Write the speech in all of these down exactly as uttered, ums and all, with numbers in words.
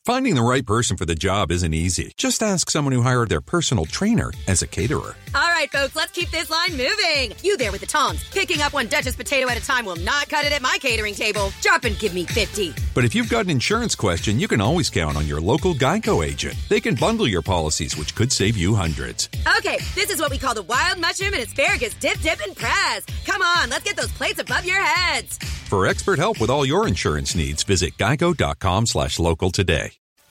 Finding the right person for the job isn't easy. Just ask someone who hired their personal trainer as a caterer. All right, folks, let's keep this line moving. You there with the tongs. Picking up one Duchess potato at a time will not cut it at my catering table. Drop and give me fifty. But if you've got an insurance question, you can always count on your local Geico agent. They can bundle your policies, which could save you hundreds. Okay, this is what we call the wild mushroom and asparagus dip, dip, and press. Come on, let's get those plates above your heads. For expert help with all your insurance needs, visit geico.com slash local today.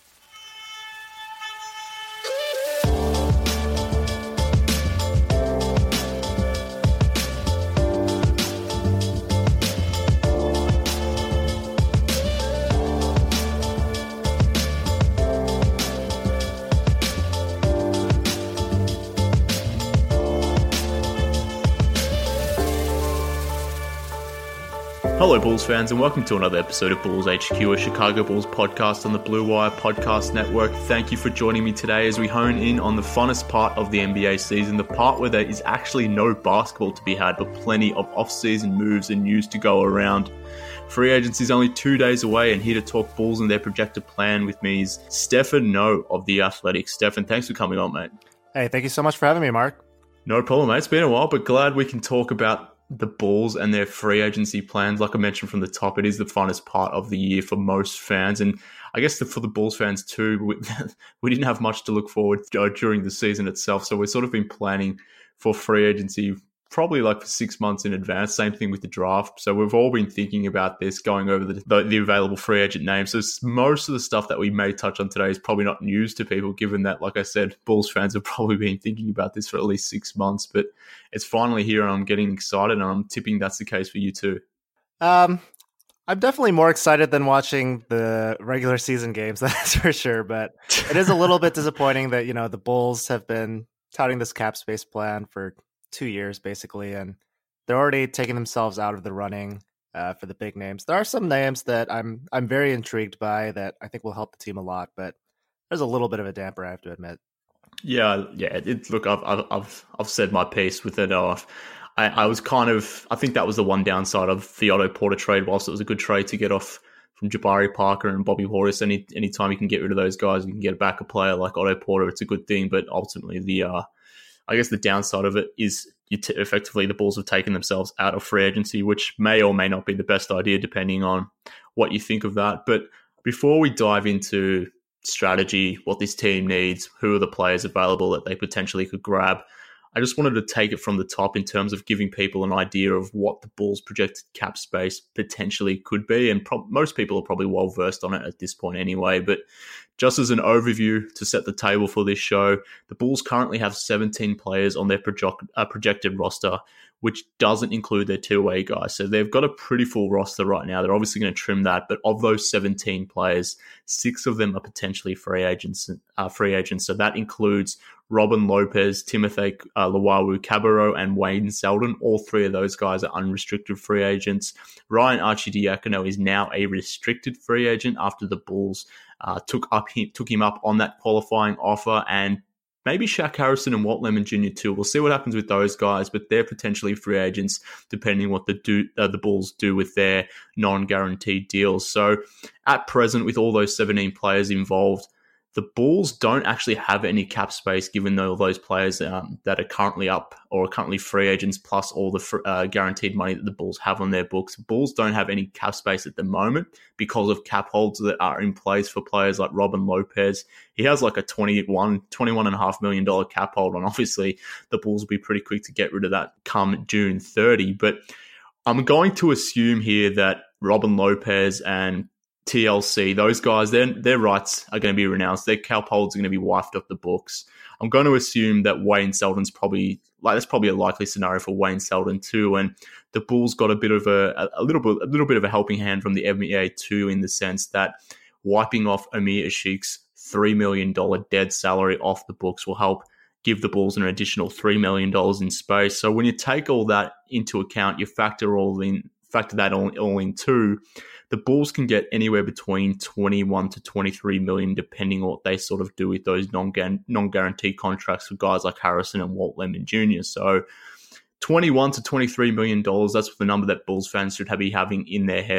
Hello Bulls fans and welcome to another episode of Bulls H Q, a Chicago Bulls podcast on the Blue Wire Podcast Network. Thank you for joining me today as we hone in on the funnest part of the N B A season, the part where there is actually no basketball to be had, but plenty of off-season moves and news to go around. Free agency is only two days away, and here to talk Bulls and their projected plan with me is Stefan No of The Athletic. Stefan, thanks for coming on, mate. Hey, thank you so much for having me, Mark. No problem, mate. It's been a while, but glad we can talk about the Bulls and their free agency plans. Like I mentioned from the top, it is the funnest part of the year for most fans. And I guess the, for the Bulls fans too, we, we didn't have much to look forward to during the season itself. So we've sort of been planning for free agency probably like for six months in advance. Same thing with the draft. So we've all been thinking about this, going over the, the, the available free agent names. So most of the stuff that we may touch on today is probably not news to people, given that, like I said, Bulls fans have probably been thinking about this for at least six months. But it's finally here and I'm getting excited, and I'm tipping that's the case for you too. Um, I'm definitely more excited than watching the regular season games, that's for sure. But it is a little bit disappointing that, you know, the Bulls have been touting this cap space plan for two years basically, and they're already taking themselves out of the running uh, for the big names. There are some names that I'm I'm very intrigued by that I think will help the team a lot, but there's a little bit of a damper, I have to admit. Yeah, yeah. It, look, I've I've I've I've said my piece with it. Uh, I I was kind of I think that was the one downside of the Otto Porter trade. Whilst it was a good trade to get off from Jabari Parker and Bobby Portis, any anytime you can get rid of those guys, you can get back a player like Otto Porter. It's a good thing, but ultimately the uh. I guess the downside of it is you t- effectively the Bulls have taken themselves out of free agency, which may or may not be the best idea depending on what you think of that. But before we dive into strategy, what this team needs, who are the players available that they potentially could grab, I just wanted to take it from the top in terms of giving people an idea of what the Bulls' projected cap space potentially could be. And pro- most people are probably well versed on it at this point anyway. But just as an overview to set the table for this show, the Bulls currently have seventeen players on their project, uh, projected roster, which doesn't include their two-way guys. So they've got a pretty full roster right now. They're obviously going to trim that, but of those seventeen players, six of them are potentially free agents. Uh, free agents. So that includes Robin Lopez, Timothy uh, Luwawu-Cabarrot, and Wayne Selden. All three of those guys are unrestricted free agents. Ryan Arcidiacono is now a restricted free agent after the Bulls uh, took up him, took him up on that qualifying offer, and maybe Shaq Harrison and Walt Lemon Junior too. We'll see what happens with those guys, but they're potentially free agents depending what the do, uh, the Bulls do with their non-guaranteed deals. So at present, with all those seventeen players involved, the Bulls don't actually have any cap space given all those players um, that are currently up or are currently free agents, plus all the fr- uh, guaranteed money that the Bulls have on their books. Bulls don't have any cap space at the moment because of cap holds that are in place for players like Robin Lopez. He has like a twenty-one, twenty-one and a half million dollar cap hold, and obviously the Bulls will be pretty quick to get rid of that come June thirtieth. But I'm going to assume here that Robin Lopez and T L C, those guys, their, their rights are going to be renounced. Their cap holds are going to be wiped off the books. I'm going to assume that Wayne Selden's probably, like, that's probably a likely scenario for Wayne Selden too. And the Bulls got a bit of a, a little bit, a little bit of a helping hand from the N B A too, in the sense that wiping off Amir Ashik's three million dollars dead salary off the books will help give the Bulls an additional three million dollars in space. So when you take all that into account, you factor all in, factor that all, all in too, the Bulls can get anywhere between twenty-one to twenty-three million, depending on what they sort of do with those non non-guaranteed contracts for guys like Harrison and Walt Lemon Junior So twenty-one to twenty-three million dollars, that's the number that Bulls fans should be having in their heads.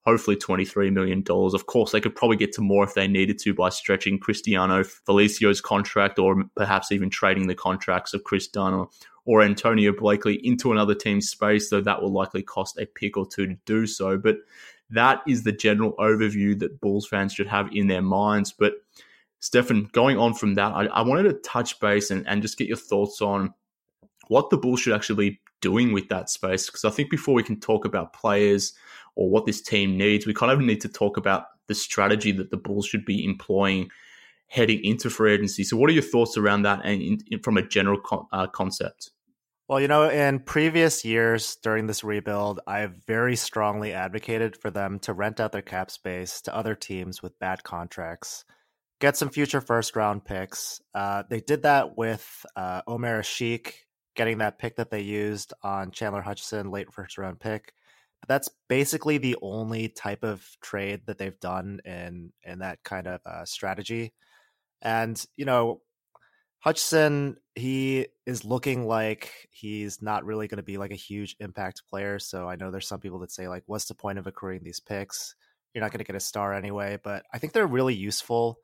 hopefully twenty-three million dollars. Of course, they could probably get to more if they needed to by stretching Cristiano Felicio's contract, or perhaps even trading the contracts of Chris Dunn or, or Antonio Blakely into another team's space, though that will likely cost a pick or two to do so. But that is the general overview that Bulls fans should have in their minds. But Stefan, going on from that, I, I wanted to touch base and, and just get your thoughts on what the Bulls should actually be doing with that space. Because I think before we can talk about players or what this team needs, we kind of need to talk about the strategy that the Bulls should be employing heading into free agency. So what are your thoughts around that and in, in, from a general co- uh, concept? Well, you know, in previous years during this rebuild, I've very strongly advocated for them to rent out their cap space to other teams with bad contracts, get some future first round picks. Uh, they did that with uh, Omer Asik, getting that pick that they used on Chandler Hutchison, late first round pick. But that's basically the only type of trade that they've done in, in that kind of uh, strategy. And, you know, Hutchison, he is looking like he's not really going to be like a huge impact player. So I know there's some people that say, like, what's the point of accruing these picks? You're not going to get a star anyway. But I think they're really useful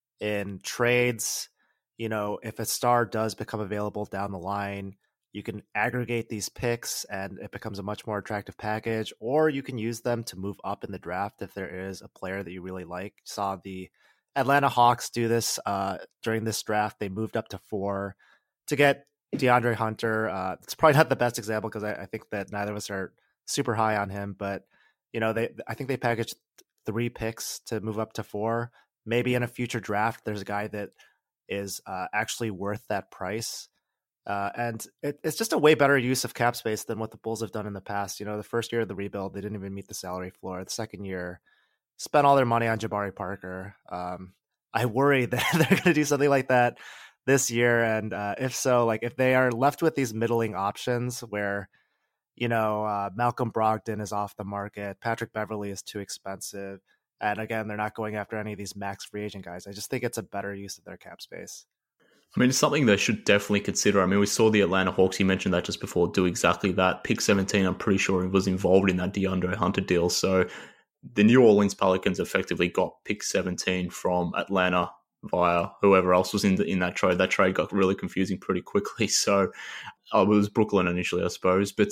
in trades. You know, if a star does become available down the line, you can aggregate these picks and it becomes a much more attractive package, or you can use them to move up in the draft if there is a player that you really like. Saw the Atlanta Hawks do this uh, during this draft. They moved up to four to get DeAndre Hunter. Uh, it's probably not the best example because I, I think that neither of us are super high on him, but you know, they I think they packaged three picks to move up to four. Maybe in a future draft, there's a guy that is uh, actually worth that price. Uh, and it, it's just a way better use of cap space than what the Bulls have done in the past. You know, the first year of the rebuild, they didn't even meet the salary floor. The second year, spent all their money on Jabari Parker. Um, I worry that they're going to do something like that this year. And uh, if so, like if they are left with these middling options where, you know, uh, Malcolm Brogdon is off the market, Patrick Beverley is too expensive, and again, they're not going after any of these max free agent guys, I just think it's a better use of their cap space. I mean, it's something they should definitely consider. I mean, we saw the Atlanta Hawks, you mentioned that just before, do exactly that. Pick seventeen, I'm pretty sure he was involved in that DeAndre Hunter deal. So the New Orleans Pelicans effectively got pick seventeen from Atlanta via whoever else was in the, in that trade. That trade got really confusing pretty quickly. So uh, it was Brooklyn initially, I suppose. But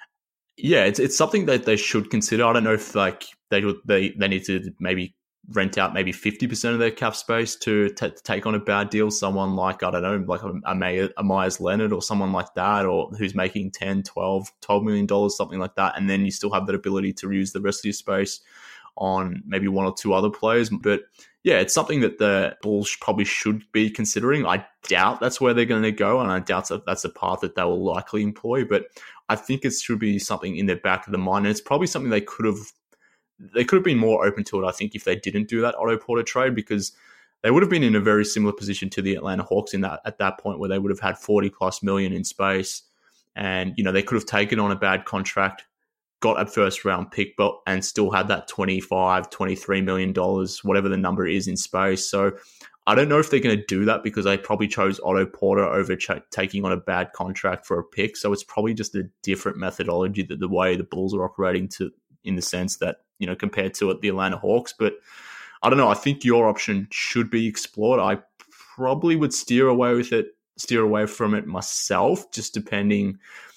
yeah, it's it's something that they should consider. I don't know if like they they they need to maybe rent out maybe fifty percent of their cap space to, t- to take on a bad deal. Someone like, I don't know, like a, a, a Myers Leonard or someone like that, or who's making ten, twelve, twelve million dollars, something like that. And then you still have that ability to use the rest of your space on maybe one or two other players. But yeah, it's something that the Bulls probably should be considering. I doubt that's where they're going to go, and I doubt that that's a path that they will likely employ. But I think it should be something in their back of the mind. And it's probably something they could have They could have been more open to it, I think, if they didn't do that Otto Porter trade, because they would have been in a very similar position to the Atlanta Hawks in that at that point, where they would have had forty plus million in space, and you know they could have taken on a bad contract, got a first round pick, but and still had that twenty-five, twenty-three million dollars, whatever the number is, in space. So I don't know if they're going to do that because they probably chose Otto Porter over ch- taking on a bad contract for a pick. So it's probably just a different methodology that the way the Bulls are operating to, in the sense that, you know, compared to the Atlanta Hawks. But I don't know. I think your option should be explored. I probably would steer away with it, steer away from it myself, just depending,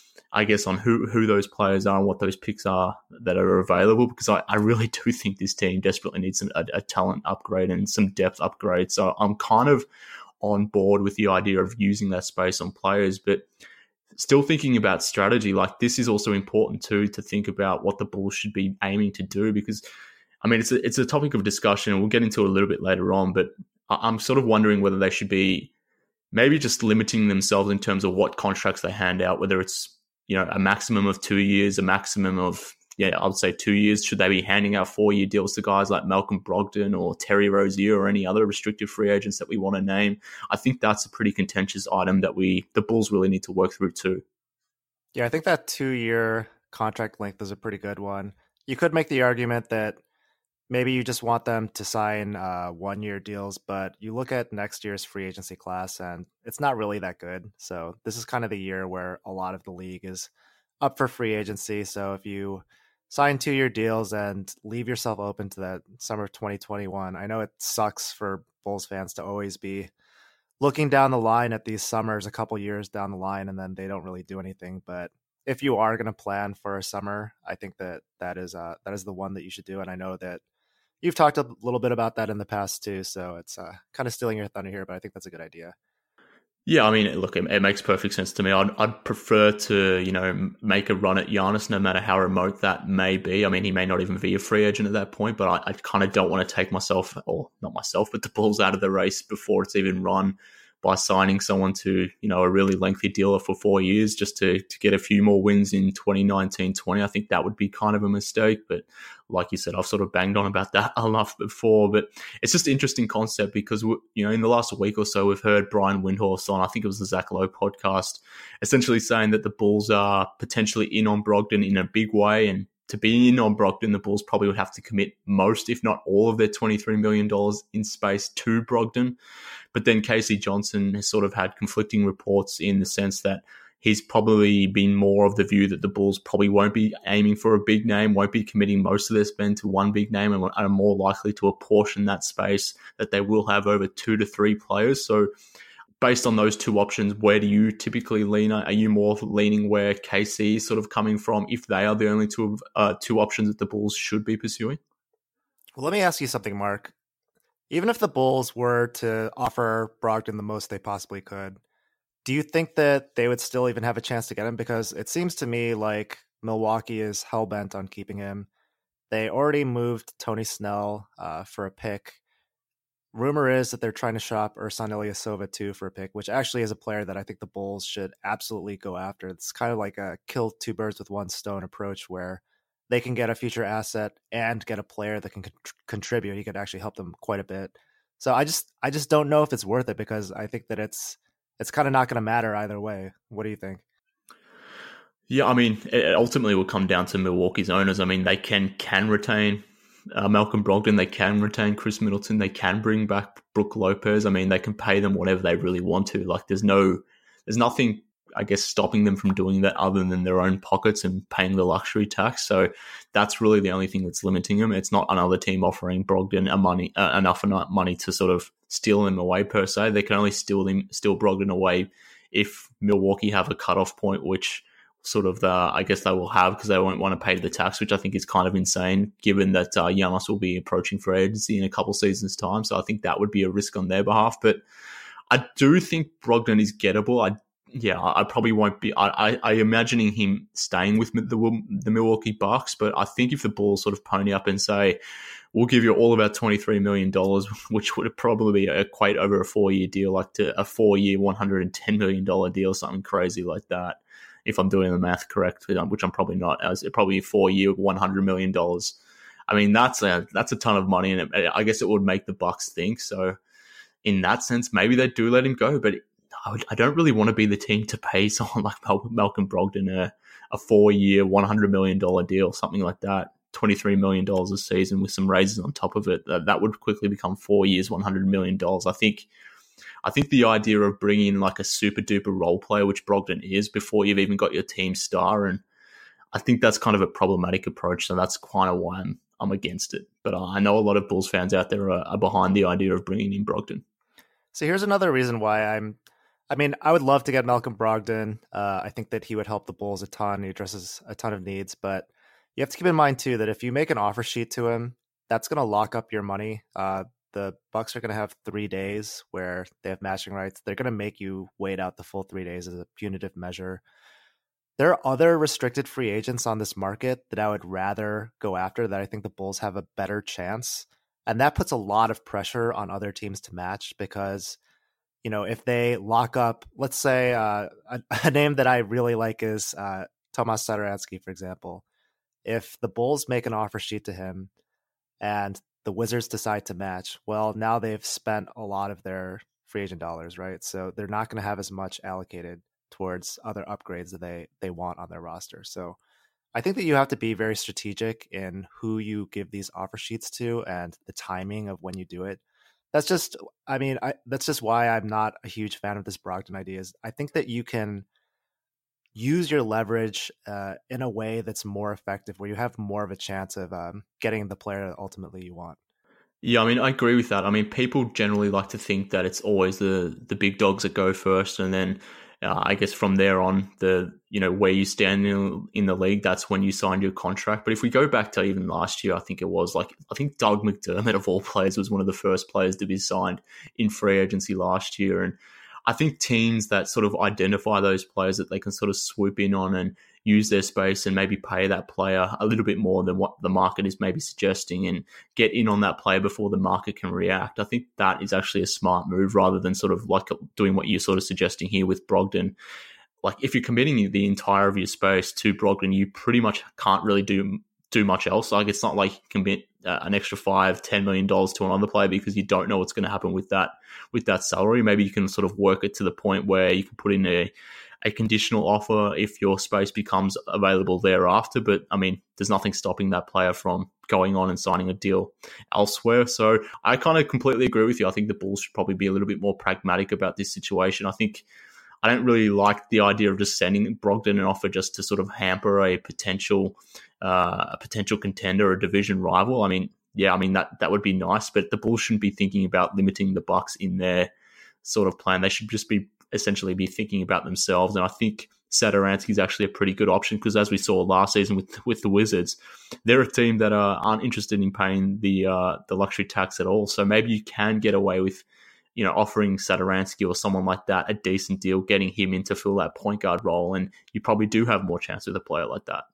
I guess, on who, who those players are and what those picks are that are available, because I, I really do think this team desperately needs some, a, a talent upgrade and some depth upgrade. So I'm kind of on board with the idea of using that space on players, but still thinking about strategy. Like, this is also important too, to think about what the Bulls should be aiming to do, because I mean, it's a, it's a topic of discussion and we'll get into it a little bit later on, but I'm sort of wondering whether they should be maybe just limiting themselves in terms of what contracts they hand out, whether it's, you know, a maximum of two years, a maximum of, yeah, I would say two years. Should they be handing out four-year deals to guys like Malcolm Brogdon or Terry Rozier or any other restricted free agents that we want to name? I think that's a pretty contentious item that we, the Bulls really need to work through too. Yeah, I think that two-year contract length is a pretty good one. You could make the argument that maybe you just want them to sign uh, one-year deals, but you look at next year's free agency class and it's not really that good. So this is kind of the year where a lot of the league is up for free agency. So if you sign two-year deals and leave yourself open to that summer of twenty twenty-one. I know it sucks for Bulls fans to always be looking down the line at these summers a couple years down the line, and then they don't really do anything. But if you are going to plan for a summer, I think that that is uh, that is the one that you should do. And I know that you've talked a little bit about that in the past too, so it's uh, kind of stealing your thunder here, but I think that's a good idea. Yeah, I mean, look, it, it makes perfect sense to me. I'd, I'd prefer to, you know, make a run at Giannis, no matter how remote that may be. I mean, he may not even be a free agent at that point, but I, I kind of don't want to take myself, or not myself, but the Bulls out of the race before it's even run by signing someone to, you know, a really lengthy deal for four years just to, to get a few more wins in twenty nineteen twenty. I think that would be kind of a mistake. But like you said, I've sort of banged on about that enough before. But it's just an interesting concept because, you know, in the last week or so, we've heard Brian Windhorst on, I think it was the Zach Lowe podcast, essentially saying that the Bulls are potentially in on Brogdon in a big way. And to be in on Brogdon, the Bulls probably would have to commit most, if not all, of their twenty-three million dollars in space to Brogdon. But then K C Johnson has sort of had conflicting reports in the sense that he's probably been more of the view that the Bulls probably won't be aiming for a big name, won't be committing most of their spend to one big name, and are more likely to apportion that space that they will have over two to three players. So based on those two options, where do you typically lean? Are you more leaning where K C is sort of coming from if they are the only two uh, two options that the Bulls should be pursuing? Well, let me ask you something, Mark. Even if the Bulls were to offer Brogdon the most they possibly could, do you think that they would still even have a chance to get him? Because it seems to me like Milwaukee is hell-bent on keeping him. They already moved Tony Snell uh, for a pick. Rumor is that they're trying to shop Ersan Ilyasova too for a pick, which actually is a player that I think the Bulls should absolutely go after. It's kind of like a kill two birds with one stone approach where they can get a future asset and get a player that can con- contribute. He could actually help them quite a bit. So I just I just don't know if it's worth it because I think that it's it's kind of not going to matter either way. What do you think? Yeah, I mean, it ultimately will come down to Milwaukee's owners. I mean, they can can retain uh, Malcolm Brogdon, they can retain Chris Middleton, they can bring back Brook Lopez. I mean, they can pay them whatever they really want to. Like, there's no, there's nothing, I guess, stopping them from doing that other than their own pockets and paying the luxury tax. So that's really the only thing that's limiting them. It's not another team offering Brogdon a money uh, enough money to sort of steal him away per se. They can only steal him, steal Brogdon away if Milwaukee have a cutoff point, which sort of the, I guess they will have because they won't want to pay the tax, which I think is kind of insane given that uh, Giannis will be approaching free agency in a couple seasons time. So I think that would be a risk on their behalf. But I do think Brogdon is gettable. I Yeah, I probably won't be. I, I, I imagining him staying with the the Milwaukee Bucks, but I think if the Bulls sort of pony up and say, "We'll give you all of our twenty-three million dollars," which would probably equate over a four-year deal, like to a four-year, one hundred ten million dollars deal, something crazy like that. If I'm doing the math correct, which I'm probably not, as probably a four-year, one hundred million dollars. I mean, that's a that's a ton of money, and it, I guess it would make the Bucks think. So, in that sense, maybe they do let him go, but I don't really want to be the team to pay someone like Malcolm Brogdon a, a four-year, one hundred million dollars deal, something like that, twenty-three million dollars a season with some raises on top of it. That, that would quickly become four years, one hundred million dollars. I think I think the idea of bringing in like a super-duper role player, which Brogdon is, before you've even got your team star, and I think that's kind of a problematic approach, so that's kind of why I'm, I'm against it. But I know a lot of Bulls fans out there are, are behind the idea of bringing in Brogdon. So here's another reason why I'm I mean, I would love to get Malcolm Brogdon. Uh, I think that he would help the Bulls a ton. He addresses a ton of needs, but you have to keep in mind too that if you make an offer sheet to him, that's going to lock up your money. Uh, the Bucks are going to have three days where they have matching rights. They're going to make you wait out the full three days as a punitive measure. There are other restricted free agents on this market that I would rather go after, that I think the Bulls have a better chance. And that puts a lot of pressure on other teams to match because, you know, if they lock up, let's say uh, a, a name that I really like is uh, Tomas Satoransky, for example. If the Bulls make an offer sheet to him and the Wizards decide to match, well, now they've spent a lot of their free agent dollars, right? So they're not going to have as much allocated towards other upgrades that they, they want on their roster. So I think that you have to be very strategic in who you give these offer sheets to and the timing of when you do it. That's just, I mean, I, that's just why I'm not a huge fan of this Brogdon idea. Is I think that you can, use your leverage uh, in a way that's more effective, where you have more of a chance of um, getting the player that ultimately you want. Yeah, I mean, I agree with that. I mean, people generally like to think that it's always the the big dogs that go first, and then uh, I guess from there on, the you know where you stand in, in the league, that's when you signed your contract. But if we go back to even last year, I think it was like I think Doug McDermott of all players was one of the first players to be signed in free agency last year, and I think teams that sort of identify those players that they can sort of swoop in on and use their space and maybe pay that player a little bit more than what the market is maybe suggesting and get in on that player before the market can react. I think that is actually a smart move rather than sort of like doing what you're sort of suggesting here with Brogdon. Like if you're committing the entire of your space to Brogdon, you pretty much can't really do do much else. Like it's not like you can commit uh, an extra five, ten million dollars to another player because you don't know what's going to happen with that with that salary. Maybe you can sort of work it to the point where you can put in a a conditional offer if your space becomes available thereafter. But I mean, there's nothing stopping that player from going on and signing a deal elsewhere. So I kind of completely agree with you. I think the Bulls should probably be a little bit more pragmatic about this situation. I think I don't really like the idea of just sending Brogdon an offer just to sort of hamper a potential uh, a potential contender or division rival. I mean, yeah, I mean that that would be nice, but the Bulls shouldn't be thinking about limiting the Bucks in their sort of plan. They should just be essentially be thinking about themselves. And I think Satoransky is actually a pretty good option because, as we saw last season with with the Wizards, they're a team that uh, aren't interested in paying the uh, the luxury tax at all. So maybe you can get away with, you know, offering Satoransky or someone like that a decent deal, getting him in to fill that point guard role, and you probably do have more chance with a player like that.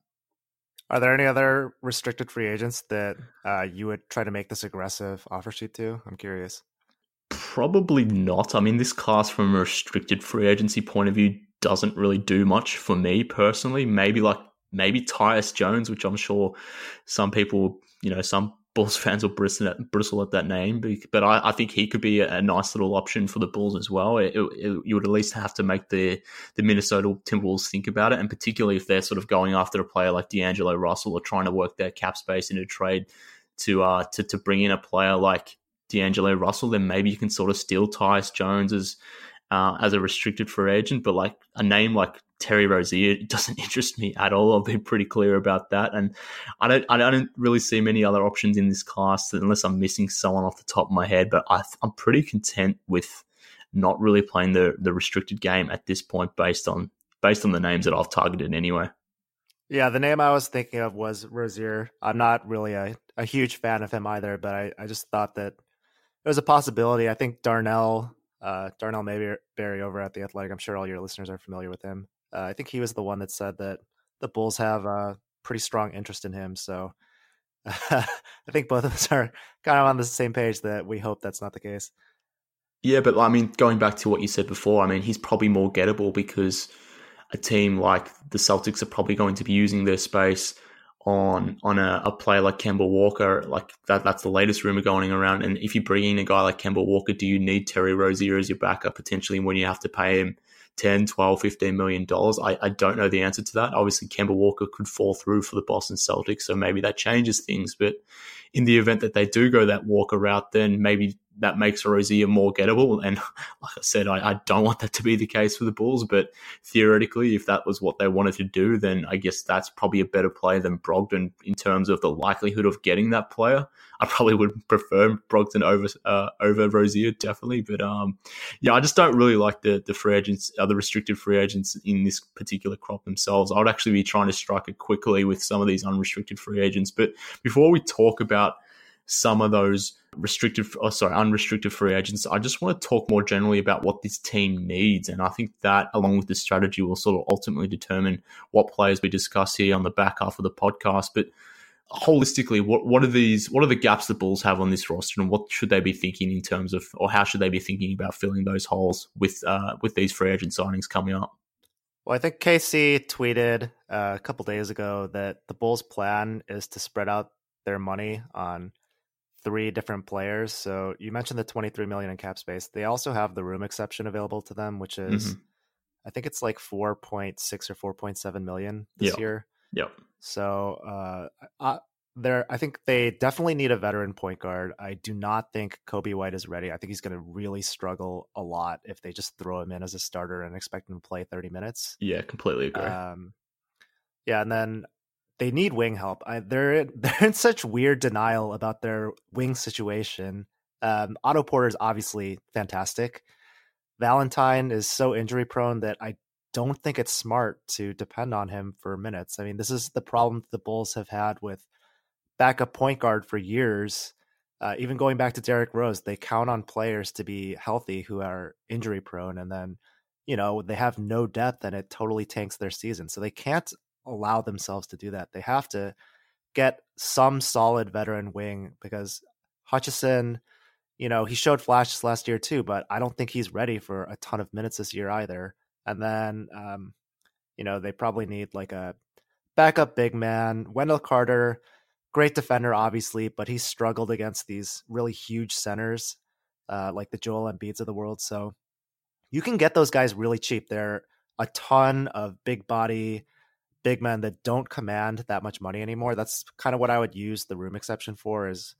Are there any other restricted free agents that uh, you would try to make this aggressive offer sheet to? I'm curious. Probably not. I mean, this class from a restricted free agency point of view doesn't really do much for me personally. Maybe like maybe Tyus Jones, which I'm sure some people, you know, some Bulls fans will bristle at, bristle at that name, but I, I think he could be a, a nice little option for the Bulls as well. It, it, you would at least have to make the the Minnesota Timberwolves think about it, and particularly if they're sort of going after a player like D'Angelo Russell or trying to work their cap space into trade to uh to to bring in a player like D'Angelo Russell, then maybe you can sort of steal Tyus Jones as uh, as a restricted free agent. But like a name like Terry Rozier doesn't interest me at all. I'll be pretty clear about that. And I don't I don't really see many other options in this class unless I'm missing someone off the top of my head. But I, I'm pretty content with not really playing the the restricted game at this point based on based on the names that I've targeted anyway. Yeah, the name I was thinking of was Rozier. I'm not really a, a huge fan of him either, but I, I just thought that it was a possibility. I think Darnell, uh, Darnell Mayberry over at The Athletic, I'm sure all your listeners are familiar with him. Uh, I think he was the one that said that the Bulls have a pretty strong interest in him. So uh, I think both of us are kind of on the same page that we hope that's not the case. Yeah, but I mean, going back to what you said before, I mean, he's probably more gettable because a team like the Celtics are probably going to be using their space on on a, a player like Kemba Walker. Like that that's the latest rumor going around. And if you bring in a guy like Kemba Walker, do you need Terry Rozier as your backup potentially when you have to pay him ten, twelve, fifteen million dollars? I, I don't know the answer to that. Obviously, Kemba Walker could fall through for the Boston Celtics, so maybe that changes things. But in the event that they do go that Walker route, then maybe that makes Rozier more gettable. And like I said, I, I don't want that to be the case for the Bulls, but theoretically, if that was what they wanted to do, then I guess that's probably a better player than Brogdon in terms of the likelihood of getting that player. I probably would prefer Brogdon over uh, over Rozier, definitely. But um, yeah, I just don't really like the the free agents, uh, the restricted free agents in this particular crop themselves. I would actually be trying to strike it quickly with some of these unrestricted free agents. But before we talk about some of those restricted, oh, sorry, unrestricted free agents, I just want to talk more generally about what this team needs. And I think that, along with the strategy, will sort of ultimately determine what players we discuss here on the back half of the podcast. But holistically, what, what are these, what are the gaps the Bulls have on this roster, and what should they be thinking in terms of, or how should they be thinking about filling those holes with, uh, with these free agent signings coming up? Well, I think K C tweeted uh, a couple days ago that the Bulls' plan is to spread out their money on three different players. So you mentioned the twenty-three million dollars in cap space. They also have the room exception available to them, which is, mm-hmm. I think it's like four point six or four point seven million this yep. year. Yep. So uh, I, they're, I think they definitely need a veteran point guard. I do not think Coby White is ready. I think he's going to really struggle a lot if they just throw him in as a starter and expect him to play thirty minutes. Yeah, completely agree. Um, yeah, and then they need wing help. I, they're they're in such weird denial about their wing situation. Um, Otto Porter is obviously fantastic. Valentine is so injury prone that I don't think it's smart to depend on him for minutes. I mean, this is the problem the Bulls have had with backup point guard for years. Uh, even going back to Derrick Rose, they count on players to be healthy who are injury prone, and then, you know, they have no depth and it totally tanks their season. So they can't allow themselves to do that. They have to get some solid veteran wing, because Hutchison, you know, he showed flashes last year too, but I don't think he's ready for a ton of minutes this year either. And then, um, you know, they probably need like a backup big man. Wendell Carter, great defender, obviously, but he's struggled against these really huge centers, uh, like the Joel Embiids of the world. So you can get those guys really cheap. They're a ton of big body, big men that don't command that much money anymore. That's kind of what I would use the room exception for, is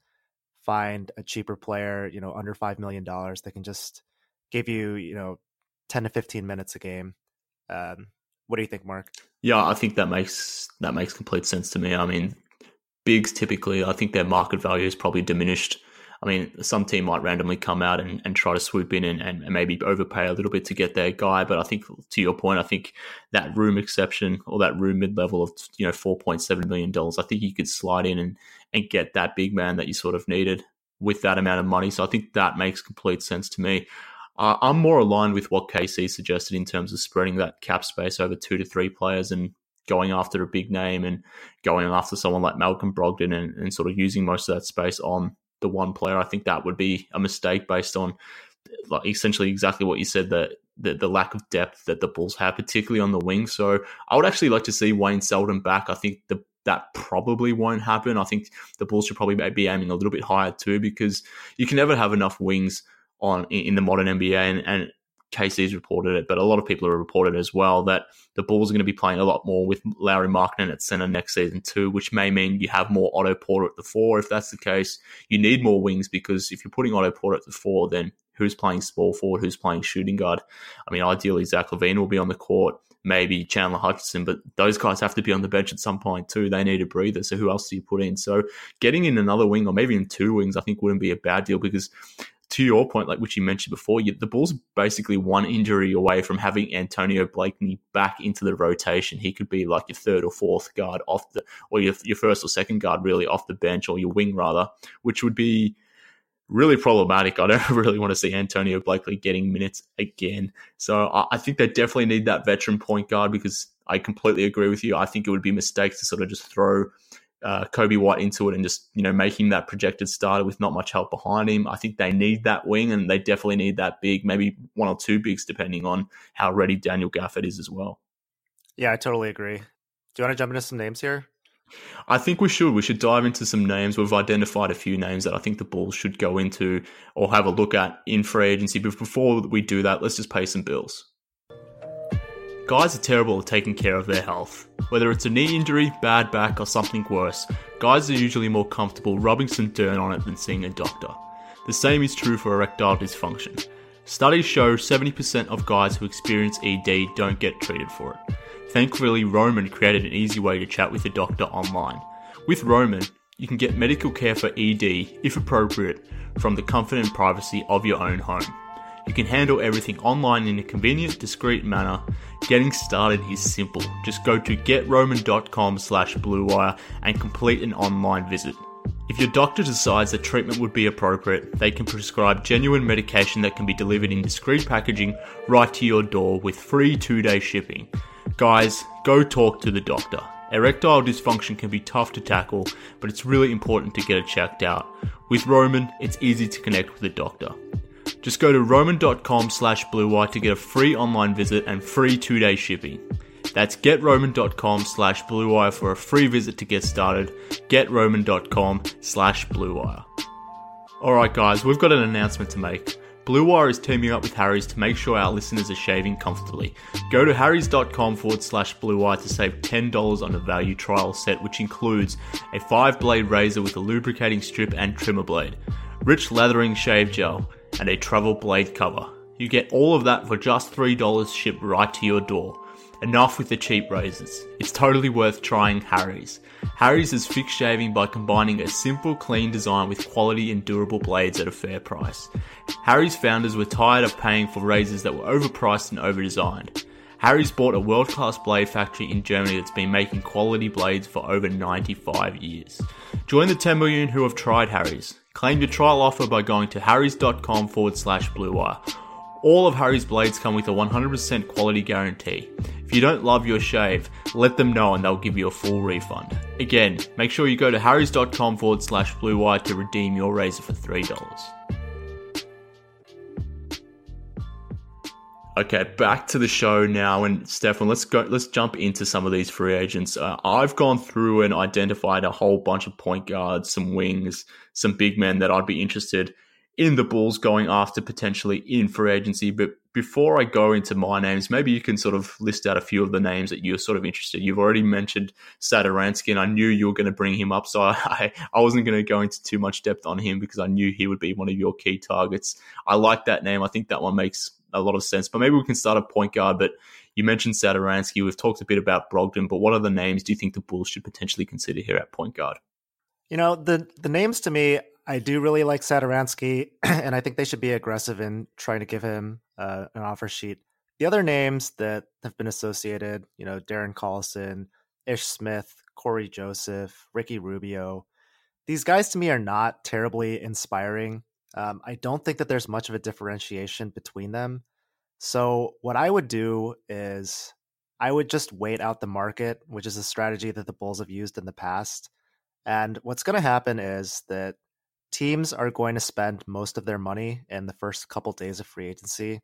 find a cheaper player, you know, under five million dollars that can just give you, you know, ten to fifteen minutes a game. Um, what do you think, Mark? Yeah, I think that makes that makes complete sense to me. I mean, bigs typically, I think their market value is probably diminished. I mean, some team might randomly come out and, and try to swoop in and, and maybe overpay a little bit to get their guy. But I think, to your point, I think that room exception or that room mid-level of, you know, four point seven million dollars, I think you could slide in and, and get that big man that you sort of needed with that amount of money. So I think that makes complete sense to me. Uh, I'm more aligned with what K C suggested in terms of spreading that cap space over two to three players and going after a big name and going after someone like Malcolm Brogdon and, and sort of using most of that space on the one player. I think that would be a mistake based on like essentially exactly what you said, that the, the lack of depth that the Bulls have, particularly on the wing. So I would actually like to see Wayne Selden back. I think the, that probably won't happen. I think the Bulls should probably be aiming a little bit higher too, because you can never have enough wings on in the modern N B A, and, and K C's reported it, but a lot of people have reported as well that the Bulls are going to be playing a lot more with Lauri Markkanen at center next season too, which may mean you have more Otto Porter at the four. If that's the case, you need more wings, because if you're putting Otto Porter at the four, then who's playing small forward, who's playing shooting guard? I mean, ideally Zach LaVine will be on the court, maybe Chandler Hutchison, but those guys have to be on the bench at some point too. They need a breather, so who else do you put in? So getting in another wing, or maybe in two wings, I think wouldn't be a bad deal, because to your point, like which you mentioned before, you, the Bulls basically one injury away from having Antonio Blakeney back into the rotation. He could be like your third or fourth guard off the, or your, your first or second guard really off the bench, or your wing rather, which would be really problematic. I don't really want to see Antonio Blakeney getting minutes again. So I, I think they definitely need that veteran point guard, because I completely agree with you. I think it would be a mistake to sort of just throw Uh, Coby White into it and just, you know, make him that projected starter with not much help behind him. I think they need that wing, and they definitely need that big, maybe one or two bigs, depending on how ready Daniel Gafford is as well. Yeah, I totally agree. Do you want to jump into some names here? I think we should. We should dive into some names. We've identified a few names that I think the Bulls should go into or have a look at in free agency. But before we do that, let's just pay some bills. Guys are terrible at taking care of their health. Whether it's a knee injury, bad back, or something worse, guys are usually more comfortable rubbing some dirt on it than seeing a doctor. The same is true for erectile dysfunction. Studies show seventy percent of guys who experience E D don't get treated for it. Thankfully, Roman created an easy way to chat with a doctor online. With Roman, you can get medical care for E D, if appropriate, from the comfort and privacy of your own home. You can handle everything online in a convenient, discreet manner. Getting started is simple. Just go to getroman.com slash bluewire and complete an online visit. If your doctor decides that treatment would be appropriate, they can prescribe genuine medication that can be delivered in discreet packaging right to your door with free two-day shipping. Guys, go talk to the doctor. Erectile dysfunction can be tough to tackle, but it's really important to get it checked out. With Roman, it's easy to connect with a doctor. Just go to roman.com slash bluewire to get a free online visit and free two-day shipping. That's getroman.com slash bluewire for a free visit to get started. getroman.com slash bluewire. Alright guys, we've got an announcement to make. Blue Wire is teaming up with Harry's to make sure our listeners are shaving comfortably. Go to harrys.com forward slash Blue Wire to save ten dollars on a value trial set, which includes a five-blade razor with a lubricating strip and trimmer blade, rich lathering shave gel, and a travel blade cover. You get all of that for just three dollars shipped right to your door. Enough with the cheap razors. It's totally worth trying Harry's. Harry's is fixed shaving by combining a simple, clean design with quality and durable blades at a fair price. Harry's founders were tired of paying for razors that were overpriced and overdesigned. Harry's bought a world-class blade factory in Germany that's been making quality blades for over ninety-five years. Join the ten million who have tried Harry's. Claim your trial offer by going to harrys.com forward slash Blue Wire. All of Harry's blades come with a one hundred percent quality guarantee. If you don't love your shave, let them know and they'll give you a full refund. Again, make sure you go to harrys.com forward slash Blue Wire to redeem your razor for three dollars. Okay, back to the show now, and Stefan, let's go. Let's jump into some of these free agents. Uh, I've gone through and identified a whole bunch of point guards, some wings, some big men that I'd be interested in the Bulls going after potentially in free agency. But before I go into my names, maybe you can sort of list out a few of the names that you're sort of interested. You've already mentioned Satoransky, and I knew you were going to bring him up, so I, I wasn't going to go into too much depth on him because I knew he would be one of your key targets. I like that name. I think that one makes a lot of sense. But maybe we can start at point guard. But you mentioned Satoransky. We've talked a bit about Brogdon, but what other names do you think the Bulls should potentially consider here at point guard? You know, the the names to me, I do really like Satoransky, and I think they should be aggressive in trying to give him uh, an offer sheet. The other names that have been associated, you know, Darren Collison, Ish Smith, Corey Joseph, Ricky Rubio, these guys to me are not terribly inspiring. Um, I don't think that there's much of a differentiation between them. So what I would do is I would just wait out the market, which is a strategy that the Bulls have used in the past. And what's going to happen is that teams are going to spend most of their money in the first couple days of free agency.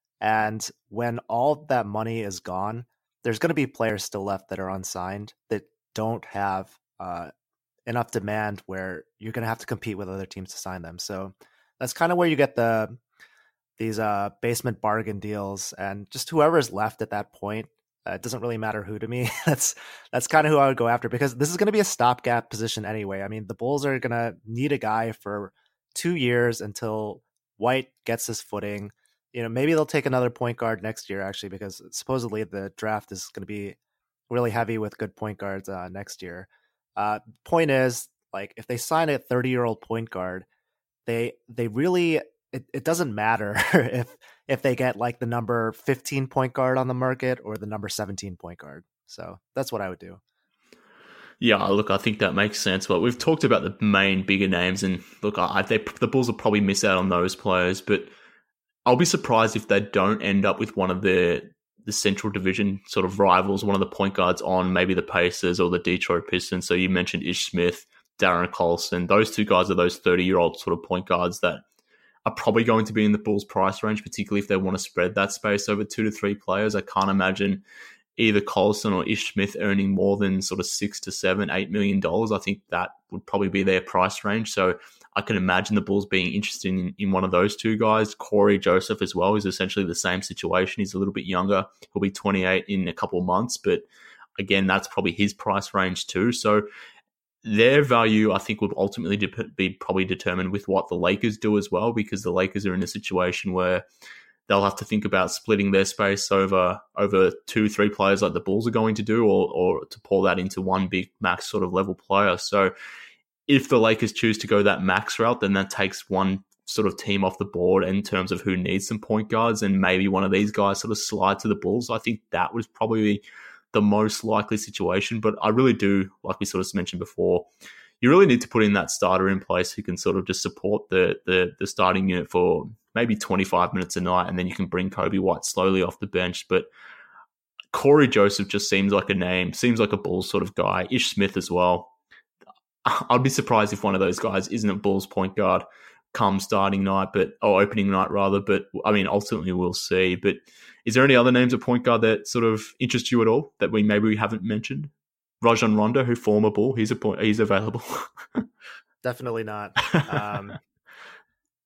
And when all that money is gone, there's going to be players still left that are unsigned that don't have uh, enough demand where you're going to have to compete with other teams to sign them. So that's kind of where you get the these uh, basement bargain deals, and just whoever is left at that point. Uh, it doesn't really matter who to me. that's that's kind of who I would go after, because this is going to be a stopgap position anyway. I mean, the Bulls are going to need a guy for two years until White gets his footing. You know, maybe they'll take another point guard next year, actually, because supposedly the draft is going to be really heavy with good point guards uh, next year. Uh, point is, like, if they sign a thirty-year-old point guard, they they really it, it doesn't matter if if they get like the number fifteen point guard on the market or the number seventeen point guard. So that's what I would do. Yeah, look, I think that makes sense. But we've talked about the main bigger names, and look, I, they, the Bulls will probably miss out on those players, but I'll be surprised if they don't end up with one of the the Central Division sort of rivals, one of the point guards on maybe the Pacers or the Detroit Pistons. So you mentioned Ish Smith, Darren Collison. Those two guys are those thirty-year-old sort of point guards that are probably going to be in the Bulls' price range, particularly if they want to spread that space over two to three players. I can't imagine either Collison or Ish Smith earning more than sort of six to seven, eight million dollars. I think that would probably be their price range. So I can imagine the Bulls being interested in, in one of those two guys. Corey Joseph as well is essentially the same situation. He's a little bit younger. He'll be twenty-eight in a couple of months, but again, that's probably his price range too. So their value, I think, would ultimately de- be probably determined with what the Lakers do as well, because the Lakers are in a situation where they'll have to think about splitting their space over over two, three players like the Bulls are going to do, or or to pour that into one big max sort of level player. So if the Lakers choose to go that max route, then that takes one sort of team off the board in terms of who needs some point guards, and maybe one of these guys sort of slide to the Bulls. I think that was probably the most likely situation. But I really do, like we sort of mentioned before, you really need to put in that starter in place who can sort of just support the the, the starting unit for maybe twenty-five minutes a night, and then you can bring Kobe White slowly off the bench. But Corey Joseph just seems like a name, seems like a Bulls sort of guy. Ish Smith as well. I'd be surprised if one of those guys isn't a Bulls point guard come starting night, but or opening night rather. But I mean, ultimately we'll see. But is there any other names of point guard that sort of interest you at all that we maybe we haven't mentioned? Rajon Rondo, who former Bull, he's a point, he's available. Definitely not. Um,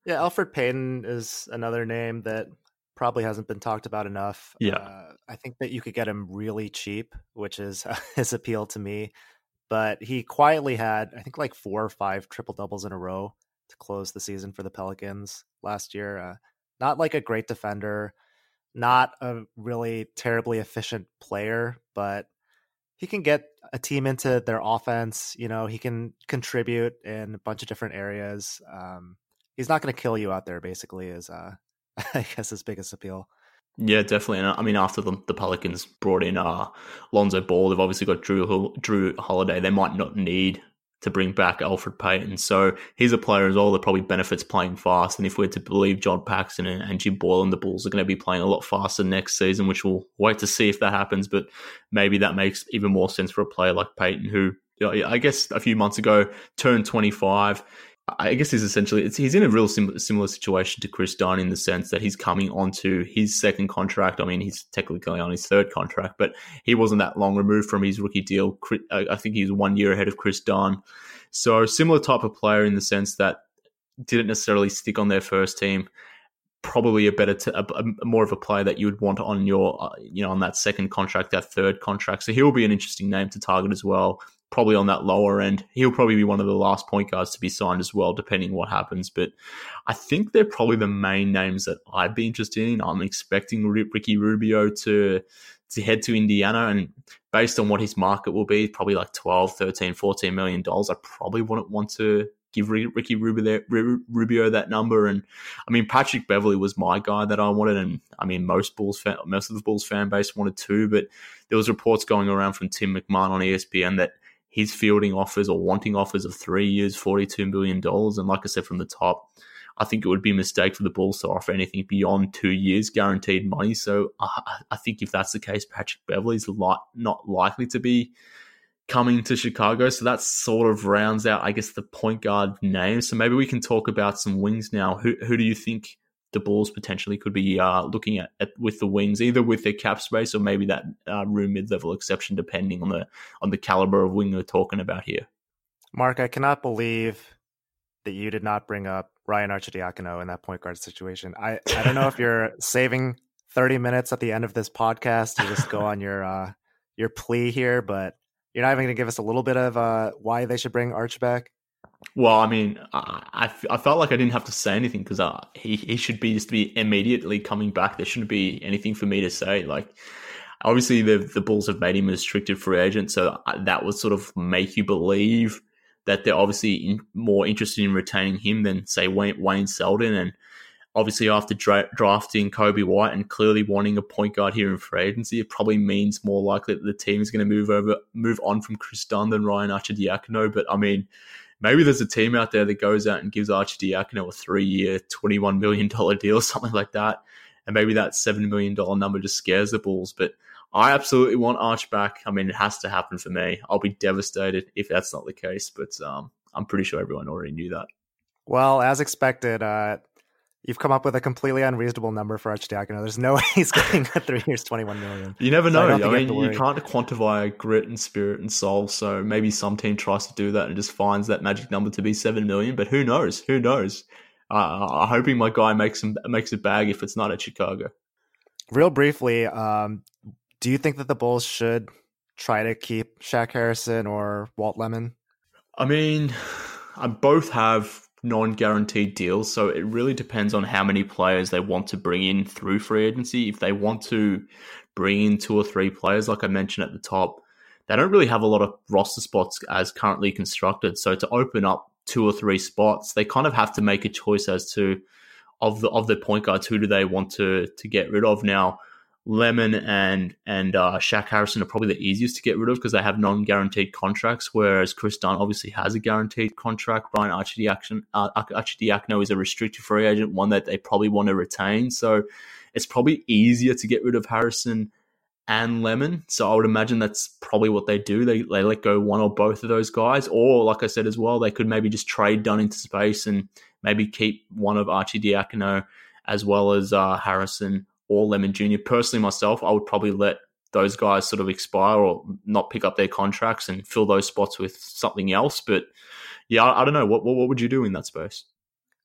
Yeah, Elfrid Payton is another name that probably hasn't been talked about enough. Yeah. Uh, I think that you could get him really cheap, which is uh, his appeal to me. But he quietly had, I think, like four or five triple doubles in a row to close the season for the Pelicans last year. Uh, not like a great defender, not a really terribly efficient player, but he can get a team into their offense. You know, he can contribute in a bunch of different areas. Um, he's not going to kill you out there, basically, is uh, I guess his biggest appeal. Yeah, definitely. And I mean, after the, the Pelicans brought in uh, Lonzo Ball, they've obviously got Drew Drew Holiday. They might not need to bring back Elfrid Payton. So he's a player as well that probably benefits playing fast. And if we're to believe John Paxson and, and Jim Boylan, the Bulls are going to be playing a lot faster next season, which we'll wait to see if that happens. But maybe that makes even more sense for a player like Payton, who, you know, I guess a few months ago turned twenty-five. I guess he's essentially, it's, he's in a real sim- similar situation to Chris Dunn in the sense that he's coming onto his second contract. I mean, he's technically on his third contract, but he wasn't that long removed from his rookie deal. I think he's one year ahead of Chris Dunn. So similar type of player in the sense that didn't necessarily stick on their first team. Probably a better, t- a, a more of a player that you would want on your, uh, you know, on that second contract, that third contract. So he'll be an interesting name to target as well. Probably on that lower end. He'll probably be one of the last point guards to be signed as well, depending what happens. But I think they're probably the main names that I'd be interested in. I'm expecting Ricky Rubio to to head to Indiana, and based on what his market will be, probably like twelve, thirteen, fourteen million dollars. I probably wouldn't want to give Ricky Rubio, Rubio that number. And I mean, Patrick Beverley was my guy that I wanted, and I mean, most Bulls fan, most of the Bulls fan base wanted too. But there was reports going around from Tim McMahon on E S P N that he's fielding offers or wanting offers of three years, forty-two million dollars. And like I said from the top, I think it would be a mistake for the Bulls to offer anything beyond two years guaranteed money. So I, I think if that's the case, Patrick Beverley's li- not likely to be coming to Chicago. So that sort of rounds out, I guess, the point guard names. So maybe we can talk about some wings now. Who who do you think the Bulls potentially could be uh, looking at, at with the wings, either with their cap space or maybe that uh, room mid-level exception, depending on the on the caliber of wing we're talking about here? Mark, I cannot believe that you did not bring up Ryan Arcidiacono in that point guard situation. I, I don't know if you're saving thirty minutes at the end of this podcast to just go on your uh, your plea here, but you're not even going to give us a little bit of uh, why they should bring Arch back? Well, I mean, I, I felt like I didn't have to say anything because uh, he, he should be just be immediately coming back. There shouldn't be anything for me to say. Like, obviously, the the Bulls have made him a restricted free agent, so that would sort of make you believe that they're obviously in, more interested in retaining him than, say, Wayne, Wayne Selden. And obviously, after dra- drafting Kobe White and clearly wanting a point guard here in free agency, it probably means more likely that the team is going to move over, move on from Chris Dunn than Ryan Arcidiacono. But I mean, maybe there's a team out there that goes out and gives Arcidiacono a three-year, twenty-one million dollars deal, something like that. And maybe that seven million dollars number just scares the Bulls. But I absolutely want Arch back. I mean, it has to happen for me. I'll be devastated if that's not the case. But um, I'm pretty sure everyone already knew that. Well, as expected, uh, you've come up with a completely unreasonable number for Arcidiacono. There's no way he's getting a three years, twenty-one million dollars. You never know. So I, I mean, you, you can't quantify grit and spirit and soul. So maybe some team tries to do that and just finds that magic number to be seven million dollars. But who knows? Who knows? Uh, I'm hoping my guy makes him makes a bag if it's not at Chicago. Real briefly, um, do you think that the Bulls should try to keep Shaq Harrison or Walt Lemon? I mean, I both have non-guaranteed deals, so it really depends on how many players they want to bring in through free agency. If they want to bring in two or three players, like I mentioned at the top, they don't really have a lot of roster spots as currently constructed. So to open up two or three spots, they kind of have to make a choice as to of the of the point guards, who do they want to to get rid of. Now, Lemon and and uh, Shaq Harrison are probably the easiest to get rid of because they have non-guaranteed contracts, whereas Chris Dunn obviously has a guaranteed contract. Ryan Arcidiacono, uh, Arcidiacono is a restricted free agent, one that they probably want to retain. So it's probably easier to get rid of Harrison and Lemon. So I would imagine that's probably what they do. They they let go one or both of those guys. Or, like I said as well, they could maybe just trade Dunn into space and maybe keep one of Arcidiacono as well as uh, Harrison or Lemon Junior Personally, myself, I would probably let those guys sort of expire or not pick up their contracts and fill those spots with something else. But yeah, I, I don't know. What, what what would you do in that space?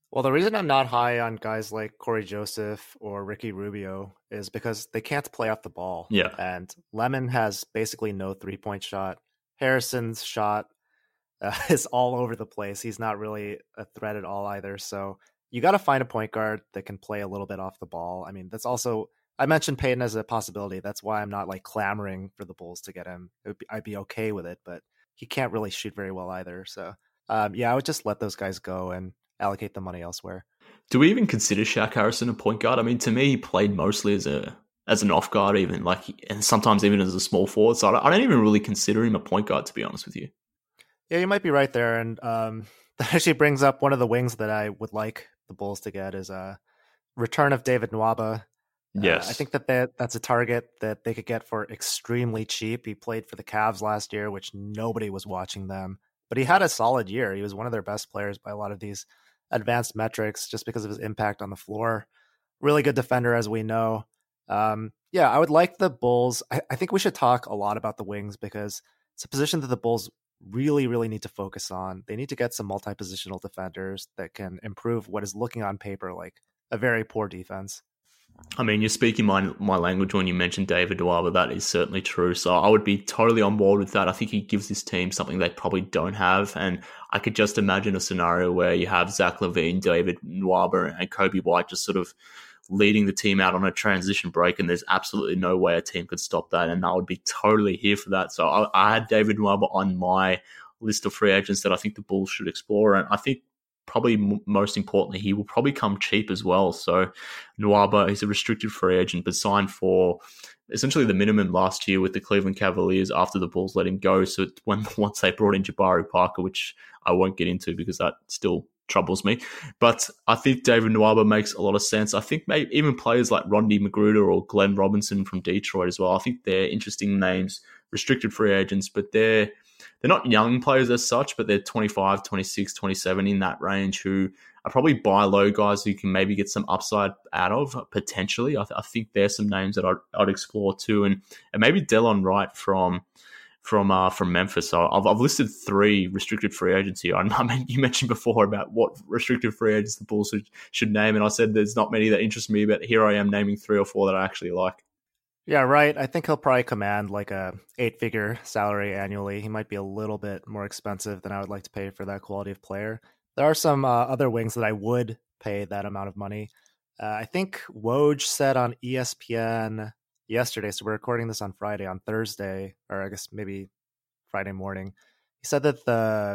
Well, the reason I'm not high on guys like Corey Joseph or Ricky Rubio is because they can't play off the ball. Yeah. And Lemon has basically no three-point shot. Harrison's shot uh, is all over the place. He's not really a threat at all either. So you got to find a point guard that can play a little bit off the ball. I mean, that's also, I mentioned Payton as a possibility. That's why I'm not like clamoring for the Bulls to get him. It would be, I'd be okay with it, but he can't really shoot very well either. So um, yeah, I would just let those guys go and allocate the money elsewhere. Do we even consider Shaq Harrison a point guard? I mean, to me, he played mostly as a as an off guard, even like, and sometimes even as a small forward. So I don't, I don't even really consider him a point guard, to be honest with you. Yeah, you might be right there, and um, that actually brings up one of the wings that I would like the Bulls to get is a return of David Nwaba. Yes, uh, I think that, that that's a target that they could get for extremely cheap. He played for the Cavs last year, which nobody was watching them, but he had a solid year. He was one of their best players by a lot of these advanced metrics just because of his impact on the floor. Really good defender, as we know. Um, yeah, I would like the Bulls. I, I think we should talk a lot about the wings because it's a position that the Bulls really, really need to focus on. They need to get some multi-positional defenders that can improve what is looking on paper like a very poor defense. I mean, you're speaking my my language when you mentioned David Nwaba. That is certainly true. So I would be totally on board with that. I think he gives this team something they probably don't have. And I could just imagine a scenario where you have Zach LaVine, David Nwaba, and Kobe White just sort of leading the team out on a transition break. And there's absolutely no way a team could stop that. And I would be totally here for that. So I, I had David Nwaba on my list of free agents that I think the Bulls should explore. And I think probably m- most importantly, he will probably come cheap as well. So Nwaba, he's a restricted free agent, but signed for essentially the minimum last year with the Cleveland Cavaliers after the Bulls let him go. So when once they brought in Jabari Parker, which I won't get into because that still troubles me. But I think David Nwaba makes a lot of sense. I think maybe even players like Rondi Magruder or Glenn Robinson from Detroit as well. I think they're interesting names, restricted free agents, but they're They're not young players as such, but they're twenty-five, twenty-six, twenty-seven in that range who are probably buy low guys who can maybe get some upside out of potentially. I, th- I think there's some names that I'd, I'd explore too. And, and maybe Delon Wright from from uh, from Memphis. So I've, I've listed three restricted free agents here. I mean, you mentioned before about what restricted free agents the Bulls should, should name. And I said there's not many that interest me, but here I am naming three or four that I actually like. Yeah, right. I think he'll probably command like a eight-figure salary annually. He might be a little bit more expensive than I would like to pay for that quality of player. There are some uh, other wings that I would pay that amount of money. Uh, I think Woj said on E S P N yesterday, so we're recording this on Friday, on Thursday, or I guess maybe Friday morning. He said that the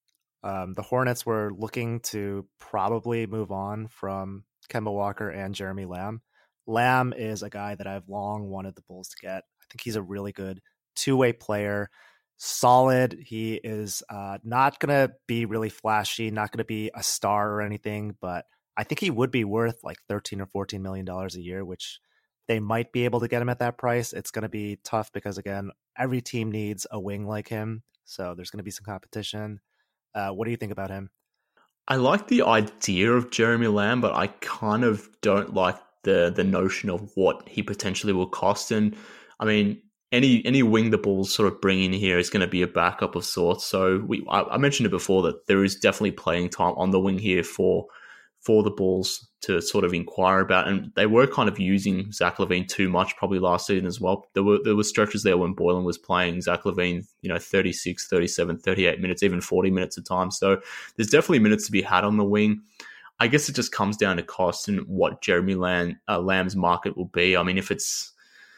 um, the Hornets were looking to probably move on from Kemba Walker and Jeremy Lamb. Lamb is a guy that I've long wanted the Bulls to get. I think he's a really good two-way player, solid. He is uh, not going to be really flashy, not going to be a star or anything, but I think he would be worth like thirteen or fourteen million dollars a year, which they might be able to get him at that price. It's going to be tough because, again, every team needs a wing like him, so there's going to be some competition. Uh, what do you think about him? I like the idea of Jeremy Lamb, but I kind of don't like the the notion of what he potentially will cost. And I mean, any any wing the Bulls sort of bring in here is going to be a backup of sorts. So we I, I mentioned it before that there is definitely playing time on the wing here for for the Bulls to sort of inquire about. And they were kind of using Zach LaVine too much probably last season as well. There were there were stretches there when Boylen was playing Zach LaVine, you know, thirty-six, thirty-seven, thirty-eight minutes, even forty minutes at times. So there's definitely minutes to be had on the wing. I guess it just comes down to cost and what Jeremy Lamb, uh, Lamb's market will be. I mean, if it's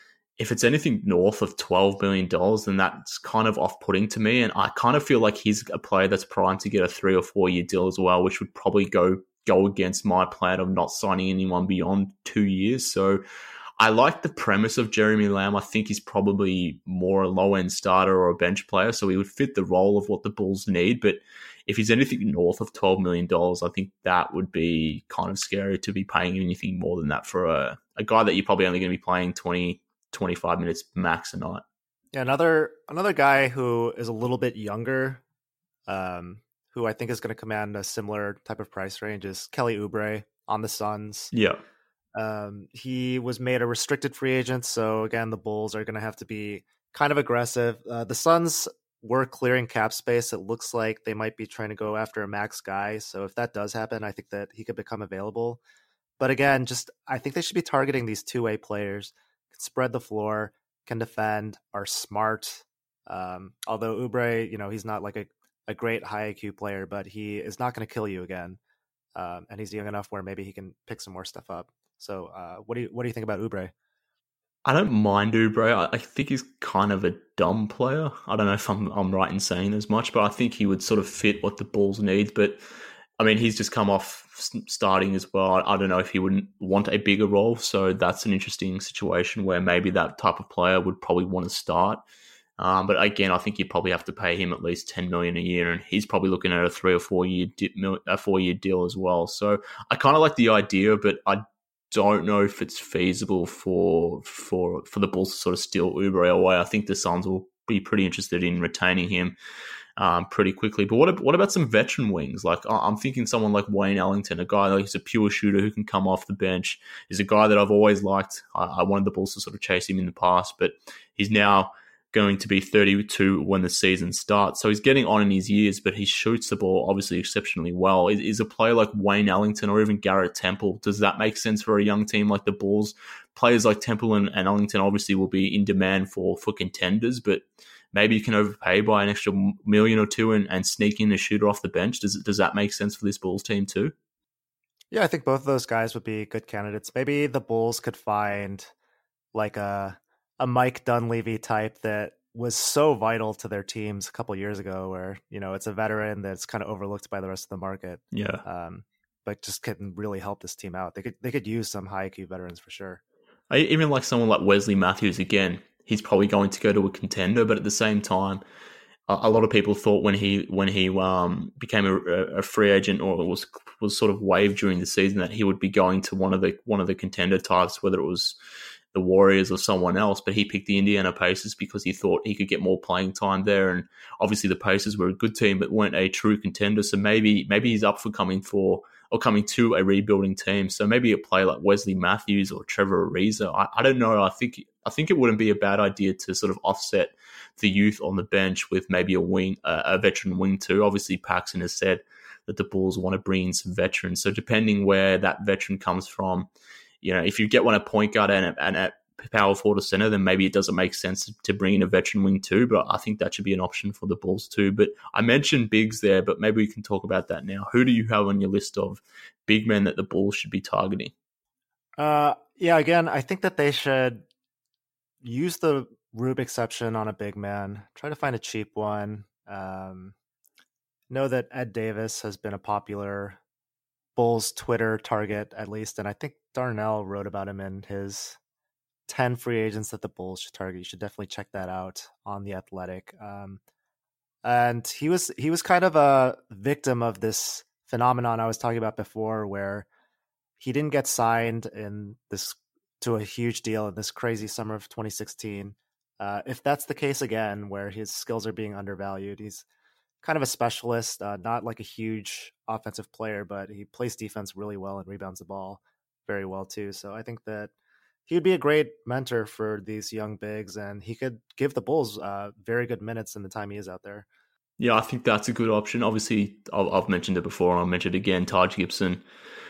if it's anything north of twelve million dollars, then that's kind of off-putting to me. And I kind of feel like he's a player that's primed to get a three or four-year deal as well, which would probably go go against my plan of not signing anyone beyond two years. So I like the premise of Jeremy Lamb. I think he's probably more a low-end starter or a bench player, so he would fit the role of what the Bulls need. But if he's anything north of twelve million dollars, I think that would be kind of scary to be paying anything more than that for a, a guy that you're probably only going to be playing twenty, twenty-five minutes max a night. Yeah, another another guy who is a little bit younger, um, who I think is going to command a similar type of price range is Kelly Oubre on the Suns. Yeah. Um, he was made a restricted free agent, so again, the Bulls are going to have to be kind of aggressive. Uh, the Suns were clearing cap space, it looks like they might be trying to go after a max guy. So if that does happen, I think that he could become available. But again, just I think they should be targeting these two-way players, can spread the floor, can defend, are smart. Um, although Oubre, you know, he's not like a, a great high I Q player, but he is not going to kill you again. Um, and he's young enough where maybe he can pick some more stuff up. So uh, what do you what do you think about Oubre? I don't mind Oubre. I, I think he's kind of a dumb player. I don't know if I'm I'm right in saying as much, but I think he would sort of fit what the Bulls need. But I mean, he's just come off starting as well. I, I don't know if he wouldn't want a bigger role. So that's an interesting situation where maybe that type of player would probably want to start. Um, but again, I think you'd probably have to pay him at least ten million dollars a year, and he's probably looking at a three or four year di- a four year deal as well. So I kind of like the idea, but I don't know if it's feasible for for for the Bulls to sort of steal Oubre away. I think the Suns will be pretty interested in retaining him um, pretty quickly. But what what about some veteran wings? Like I'm thinking someone like Wayne Ellington, a guy like he's a pure shooter who can come off the bench. He's a guy that I've always liked. I, I wanted the Bulls to sort of chase him in the past, but he's now going to be thirty-two when the season starts. So he's getting on in his years, but he shoots the ball obviously exceptionally well. Is, is a player like Wayne Ellington or even Garrett Temple, does that make sense for a young team like the Bulls? Players like Temple and, and Ellington obviously will be in demand for, for contenders, but maybe you can overpay by an extra million or two and, and sneak in a shooter off the bench. Does, does that make sense for this Bulls team too? Yeah, I think both of those guys would be good candidates. Maybe the Bulls could find like a a Mike Dunleavy type that was so vital to their teams a couple of years ago, where, you know, it's a veteran that's kind of overlooked by the rest of the market. Yeah. Um, but just can really help this team out. They could, they could use some high I Q veterans for sure. I, even like someone like Wesley Matthews, again, he's probably going to go to a contender, but at the same time, a, a lot of people thought when he, when he um, became a, a free agent or was, was sort of waived during the season that he would be going to one of the, one of the contender types, whether it was the Warriors or someone else, but he picked the Indiana Pacers because he thought he could get more playing time there. And obviously the Pacers were a good team, but weren't a true contender. So maybe maybe he's up for coming for or coming to a rebuilding team. So maybe a player like Wesley Matthews or Trevor Ariza. I, I don't know. I think I think it wouldn't be a bad idea to sort of offset the youth on the bench with maybe a wing, uh, a veteran wing too. Obviously Paxson has said that the Bulls want to bring in some veterans. So depending where that veteran comes from, you know, if you get one at point guard and, and at power forward or center, then maybe it doesn't make sense to bring in a veteran wing too. But I think that should be an option for the Bulls too. But I mentioned bigs there, but maybe we can talk about that now. Who do you have on your list of big men that the Bulls should be targeting? Uh, yeah, again, I think that they should use the Rube exception on a big man. Try to find a cheap one. Um, know that Ed Davis has been a popular Bulls Twitter target, at least, and I think Darnell wrote about him in his ten free agents that the Bulls should target. You should definitely check that out on The Athletic. Um, and he was he was kind of a victim of this phenomenon I was talking about before, where he didn't get signed in this to a huge deal in this crazy summer of twenty sixteen. Uh, if that's the case again, where his skills are being undervalued, he's kind of a specialist, uh, not like a huge offensive player, but he plays defense really well and rebounds the ball very well too. So I think that he would be a great mentor for these young bigs, and he could give the Bulls uh, very good minutes in the time he is out there. Yeah, I think that's a good option. Obviously, I've mentioned it before, and I'll mention it again. Taj Gibson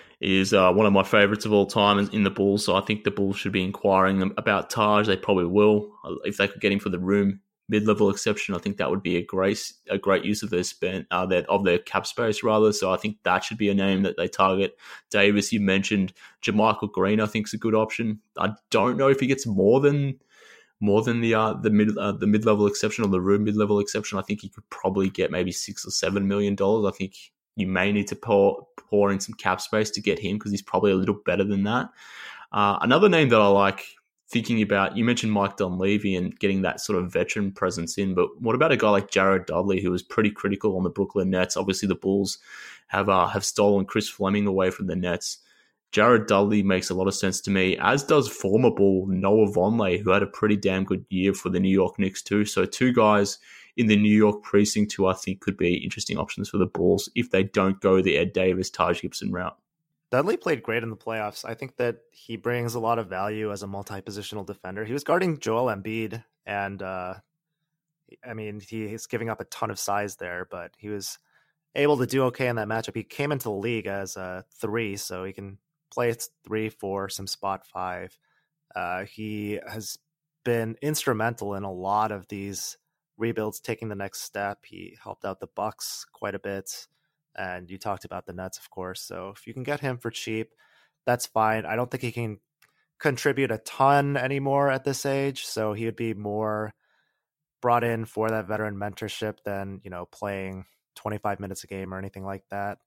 is uh, one of my favorites of all time in the Bulls, so I think the Bulls should be inquiring about Taj. They probably will. If they could get him for the room mid-level exception, I think that would be a great a great use of their spend uh, their, of their cap space rather. So I think that should be a name that they target. Davis, you mentioned JaMychal Green. I think is a good option. I don't know if he gets more than more than the uh, the mid uh, the mid-level exception or the room mid-level exception. I think he could probably get maybe six or seven million dollars. I think you may need to pour pour in some cap space to get him because he's probably a little better than that. Uh, another name that I like thinking about, you mentioned Mike Dunleavy and getting that sort of veteran presence in, but what about a guy like Jared Dudley, who was pretty critical on the Brooklyn Nets? Obviously, the Bulls have uh, have stolen Chris Fleming away from the Nets. Jared Dudley makes a lot of sense to me, as does former Bull Noah Vonleh, who had a pretty damn good year for the New York Knicks too. So two guys in the New York precinct who I think could be interesting options for the Bulls if they don't go the Ed Davis, Taj Gibson route. Dudley played great in the playoffs. I think that he brings a lot of value as a multi-positional defender. He was guarding Joel Embiid, and uh, I mean, he, he's giving up a ton of size there, but he was able to do okay in that matchup. He came into the league as a three, so he can play three, four, some spot five. Uh, he has been instrumental in a lot of these rebuilds, taking the next step. He helped out the Bucks quite a bit, and you talked about the Nets, of course. So if you can get him for cheap, that's fine. I don't think he can contribute a ton anymore at this age, so he would be more brought in for that veteran mentorship than, you know, playing twenty-five minutes a game or anything like that.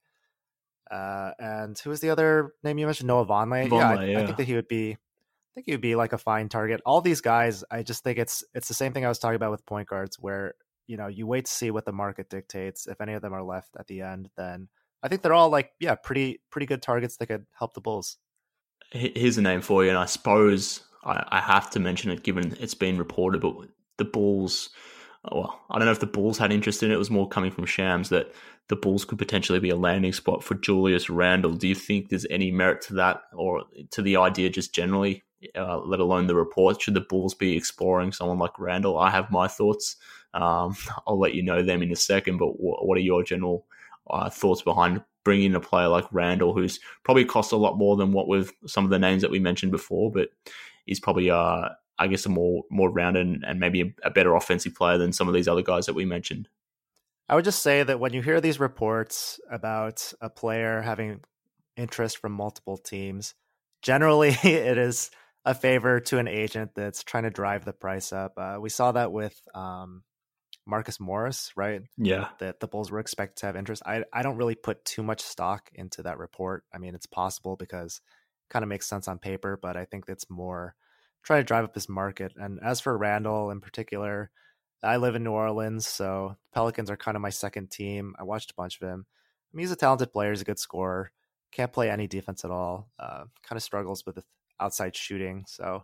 Uh, and who was the other name you mentioned? Noah Vonleh. Vonleh, yeah, I, yeah. I think that he would be. I think he would be like a fine target. All these guys, I just think it's it's the same thing I was talking about with point guards, where, you know, you wait to see what the market dictates. If any of them are left at the end, then I think they're all like, yeah, pretty pretty good targets that could help the Bulls. Here's a name for you, and I suppose I, I have to mention it given it's been reported, but the Bulls, well, I don't know if the Bulls had interest in it. It was more coming from Shams that the Bulls could potentially be a landing spot for Julius Randle. Do you think there's any merit to that, or to the idea just generally, uh, let alone the report? Should the Bulls be exploring someone like Randle? I have my thoughts. Um, I'll let you know them in a second, but what, what are your general uh, thoughts behind bringing in a player like Randle, who's probably cost a lot more than what with some of the names that we mentioned before, but he's probably, uh, I guess, a more more rounded and maybe a, a better offensive player than some of these other guys that we mentioned. I would just say that when you hear these reports about a player having interest from multiple teams, generally it is a favor to an agent that's trying to drive the price up. Uh, we saw that with um, Marcus Morris, right? Yeah. That the Bulls were expected to have interest. I, I don't really put too much stock into that report. I mean, it's possible because it kind of makes sense on paper, but I think that's more trying to drive up this market. And as for Randle in particular, I live in New Orleans, so Pelicans are kind of my second team. I watched a bunch of him. I mean, he's a talented player. He's a good scorer. Can't play any defense at all. Uh, kind of struggles with outside shooting. So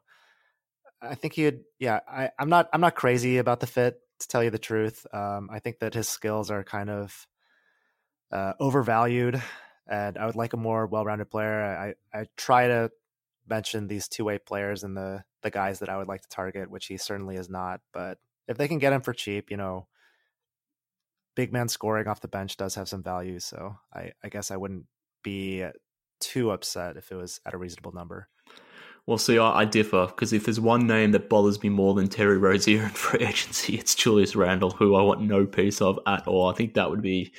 I think he'd, yeah, I, I'm not, I'm not crazy about the fit, to tell you the truth. Um, I think that his skills are kind of uh, overvalued, and I would like a more well-rounded player. I, I try to mention these two-way players and the, the guys that I would like to target, which he certainly is not, but if they can get him for cheap, you know, big man scoring off the bench does have some value. So I, I guess I wouldn't be too upset if it was at a reasonable number. Well, see, I, I differ, because if there's one name that bothers me more than Terry Rozier in free agency, it's Julius Randle, who I want no piece of at all. I think that would be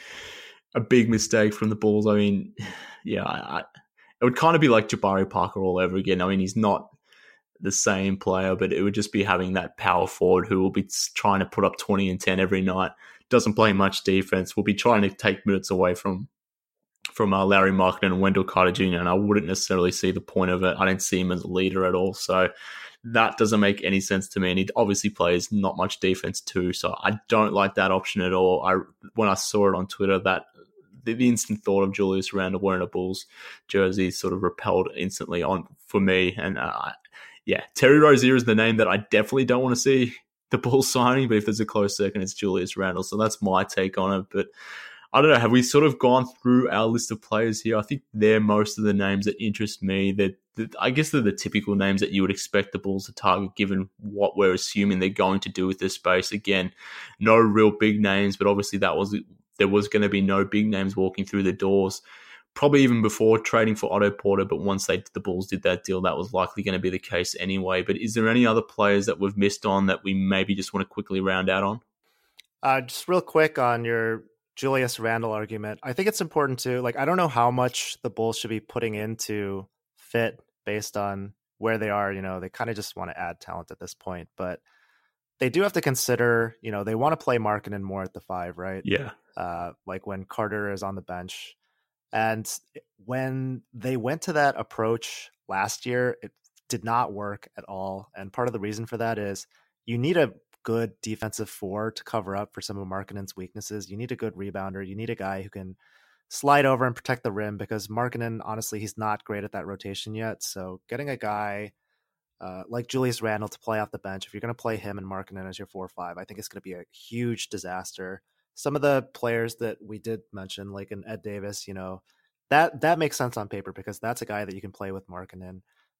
a big mistake from the Bulls. I mean, yeah, I, I, it would kind of be like Jabari Parker all over again. I mean, he's not the same player, but it would just be having that power forward who will be trying to put up twenty and ten every night, doesn't play much defense, will be trying to take minutes away from from uh, Larry Markkinen and Wendell Carter Junior, and I wouldn't necessarily see the point of it. I don't see him as a leader at all, so that doesn't make any sense to me, and he obviously plays not much defense too, so I don't like that option at all. I When I saw it on Twitter, that the, the instant thought of Julius Randle wearing a Bulls jersey sort of repelled instantly on for me, and uh, yeah, Terry Rozier is the name that I definitely don't want to see the Bulls signing, but if there's a close second, it's Julius Randle. So that's my take on it. But I don't know, have we sort of gone through our list of players here? I think they're most of the names that interest me. That I guess they're the typical names that you would expect the Bulls to target, given what we're assuming they're going to do with this space. Again, no real big names, but obviously that was there was going to be no big names walking through the doors. Probably even before trading for Otto Porter, but once they the Bulls did that deal, that was likely going to be the case anyway. But is there any other players that we've missed on that we maybe just want to quickly round out on? Uh, just real quick on your Julius Randle argument, I think it's important to, like, I don't know how much the Bulls should be putting into fit based on where they are. You know, they kind of just want to add talent at this point, but they do have to consider, you know, they want to play Markkinen more at the five, right? Yeah. Uh, like when Carter is on the bench. And when they went to that approach last year, it did not work at all. And part of the reason for that is you need a good defensive four to cover up for some of Markkinen's weaknesses. You need a good rebounder. You need a guy who can slide over and protect the rim, because Markkinen, honestly, he's not great at that rotation yet. So getting a guy uh, like Julius Randle to play off the bench, if you're going to play him and Markkinen as your four or five, I think it's going to be a huge disaster. Some of the players that we did mention, like an Ed Davis, you know, that that makes sense on paper because that's a guy that you can play with Markkinen.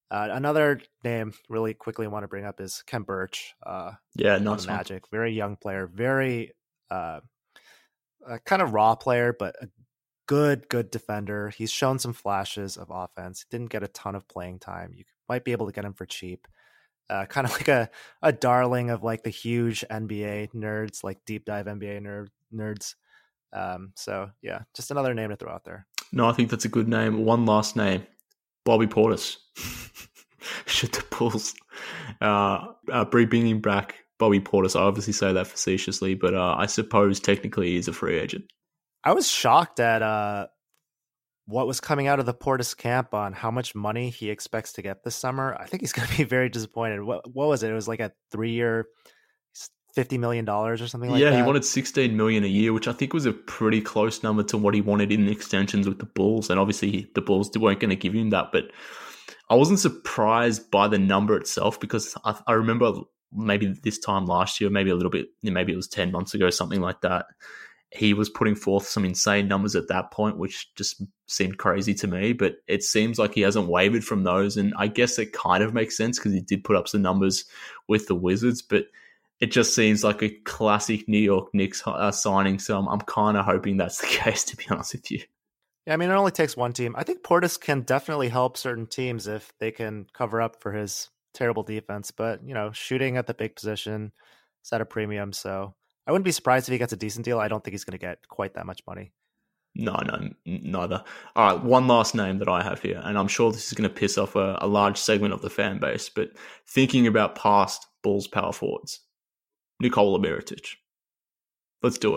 Uh, another name really quickly I want to bring up is Khem Birch. Uh, yeah, on nice the one. Magic. Very young player, very uh, uh, kind of raw player, but a good, good defender. He's shown some flashes of offense. Didn't get a ton of playing time. You might be able to get him for cheap. Uh, kind of like a, a darling of like the huge N B A nerds, like deep dive N B A nerd, nerds. Um, so yeah, just another name to throw out there. No, I think that's a good name. One last name, Bobby Portis. Should the Bulls uh, uh, bringing back Bobby Portis? I obviously say that facetiously, but uh, I suppose technically he's a free agent. I was shocked at uh, what was coming out of the Portis camp on how much money he expects to get this summer. I think he's going to be very disappointed. What what was it? It was like a three-year, fifty million dollars or something like yeah, that. Yeah, he wanted sixteen million dollars a year, which I think was a pretty close number to what he wanted in extensions with the Bulls. And obviously the Bulls weren't going to give him that, but I wasn't surprised by the number itself because I, I remember maybe this time last year, maybe a little bit, maybe it was ten months ago, something like that. He was putting forth some insane numbers at that point, which just seemed crazy to me. But it seems like he hasn't wavered from those. And I guess it kind of makes sense because he did put up some numbers with the Wizards. But it just seems like a classic New York Knicks uh, signing. So I'm, I'm kind of hoping that's the case, to be honest with you. Yeah, I mean, it only takes one team. I think Portis can definitely help certain teams if they can cover up for his terrible defense. But, you know, shooting at the big position is at a premium. So I wouldn't be surprised if he gets a decent deal. I don't think he's going to get quite that much money. No, no, neither. All right, one last name that I have here, and I'm sure this is going to piss off a, a large segment of the fan base, but thinking about past Bulls power forwards, Nikola Mirotic. Let's do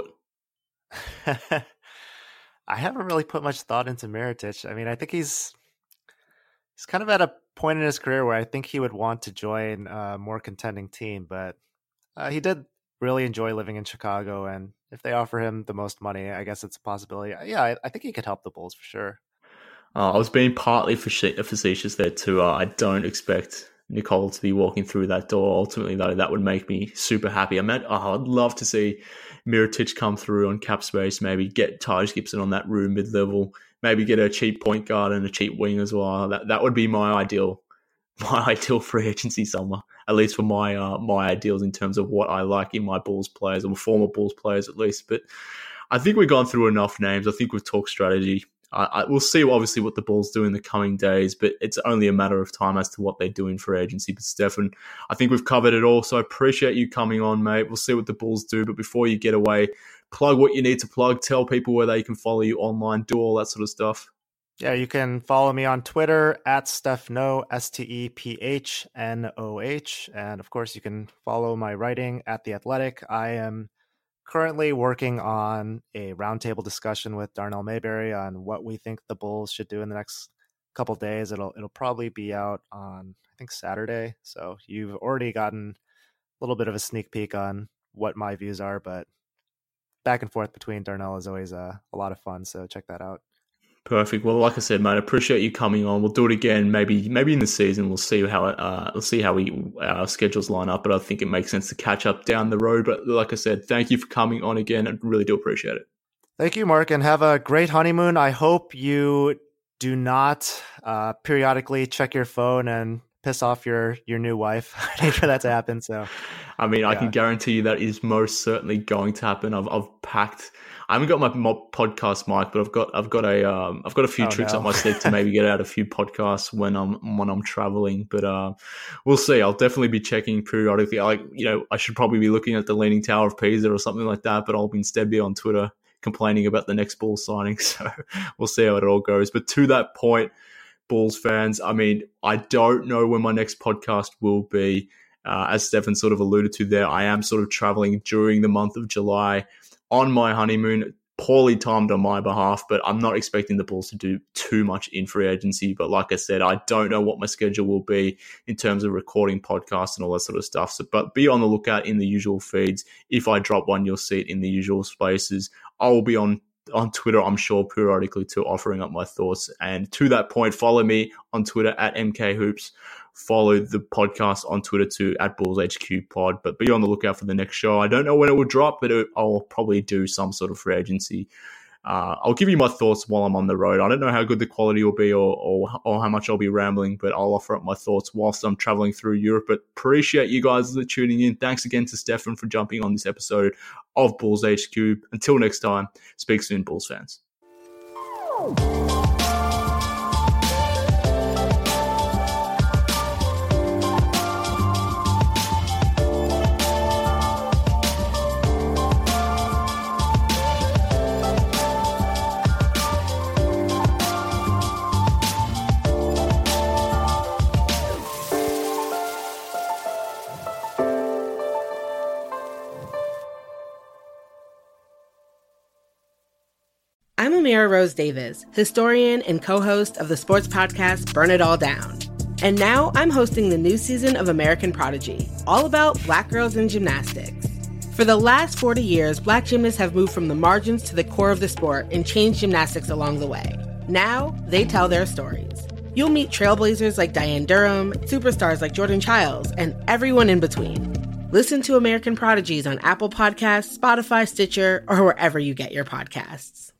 it. I haven't really put much thought into Mirotic. I mean, I think he's he's kind of at a point in his career where I think he would want to join a more contending team, but uh, he did really enjoy living in Chicago, and if they offer him the most money, I guess it's a possibility. Yeah, I, I think he could help the Bulls for sure. Uh, I was being partly facetious there too. Uh, I don't expect Nicole to be walking through that door. Ultimately, though, that would make me super happy. I mean, oh, I'd love to see Mirotic come through on cap space, maybe get Taj Gibson on that room mid-level, maybe get a cheap point guard and a cheap wing as well. That that would be my ideal, my ideal free agency summer, at least for my uh, my ideals in terms of what I like in my Bulls players, or former Bulls players at least. But I think we've gone through enough names. I think we've talked strategy. I, I, we'll see, obviously, what the Bulls do in the coming days, but it's only a matter of time as to what they do in free agency. But Stefan, I think we've covered it all, so I appreciate you coming on, mate. We'll see what the Bulls do, but before you get away, plug what you need to plug, tell people where they can follow you online, do all that sort of stuff. Yeah, you can follow me on Twitter at Stephnoh, S T E P H N O H. And of course, you can follow my writing at The Athletic. I am currently working on a roundtable discussion with Darnell Mayberry on what we think the Bulls should do in the next couple days. It'll it'll probably be out on, I think, Saturday. So you've already gotten a little bit of a sneak peek on what my views are, but back and forth between Darnell is always uh, a lot of fun. So check that out. Perfect. Well, like I said, mate, I appreciate you coming on. We'll do it again, maybe maybe in the season. We'll see how it, uh, we'll see how we our schedules line up. But I think it makes sense to catch up down the road. But like I said, thank you for coming on again. I really do appreciate it. Thank you, Mark, and have a great honeymoon. I hope you do not uh, periodically check your phone and piss off your your new wife. I need for that to happen. So, I mean, yeah. I can guarantee you that is most certainly going to happen. I've I've packed. I haven't got my, my podcast mic, but I've got I've got a um, I've got a few oh, tricks no. up my sleeve to maybe get out a few podcasts when I'm when I'm traveling. But uh, we'll see. I'll definitely be checking periodically. I, like you know, I should probably be looking at the Leaning Tower of Pisa or something like that. But I'll instead be on Twitter complaining about the next Bulls signing. So we'll see how it all goes. But to that point, Bulls fans, I mean, I don't know when my next podcast will be. Uh, as Stefan sort of alluded to there, I am sort of traveling during the month of July on my honeymoon, poorly timed on my behalf, but I'm not expecting the Bulls to do too much in free agency. But like I said, I don't know what my schedule will be in terms of recording podcasts and all that sort of stuff. So, but be on the lookout in the usual feeds. If I drop one, you'll see it in the usual spaces. I will be on on Twitter, I'm sure, periodically too, offering up my thoughts. And to that point, follow me on Twitter at M K Hoops. Follow the podcast on Twitter too at Bulls H Q Pod. But be on the lookout for the next show. I don't know when it will drop, but it, I'll probably do some sort of free agency Uh, I'll give you my thoughts while I'm on the road. I don't know how good the quality will be or, or, or how much I'll be rambling, but I'll offer up my thoughts whilst I'm traveling through Europe. But appreciate you guys tuning in. Thanks again to Stefan for jumping on this episode of Bulls H Q. Until next time, speak soon, Bulls fans. I'm Amira Rose Davis, historian and co-host of the sports podcast Burn It All Down. And now I'm hosting the new season of American Prodigy, all about Black girls in gymnastics. For the last forty years, Black gymnasts have moved from the margins to the core of the sport and changed gymnastics along the way. Now, they tell their stories. You'll meet trailblazers like Diane Durham, superstars like Jordan Childs, and everyone in between. Listen to American Prodigies on Apple Podcasts, Spotify, Stitcher, or wherever you get your podcasts.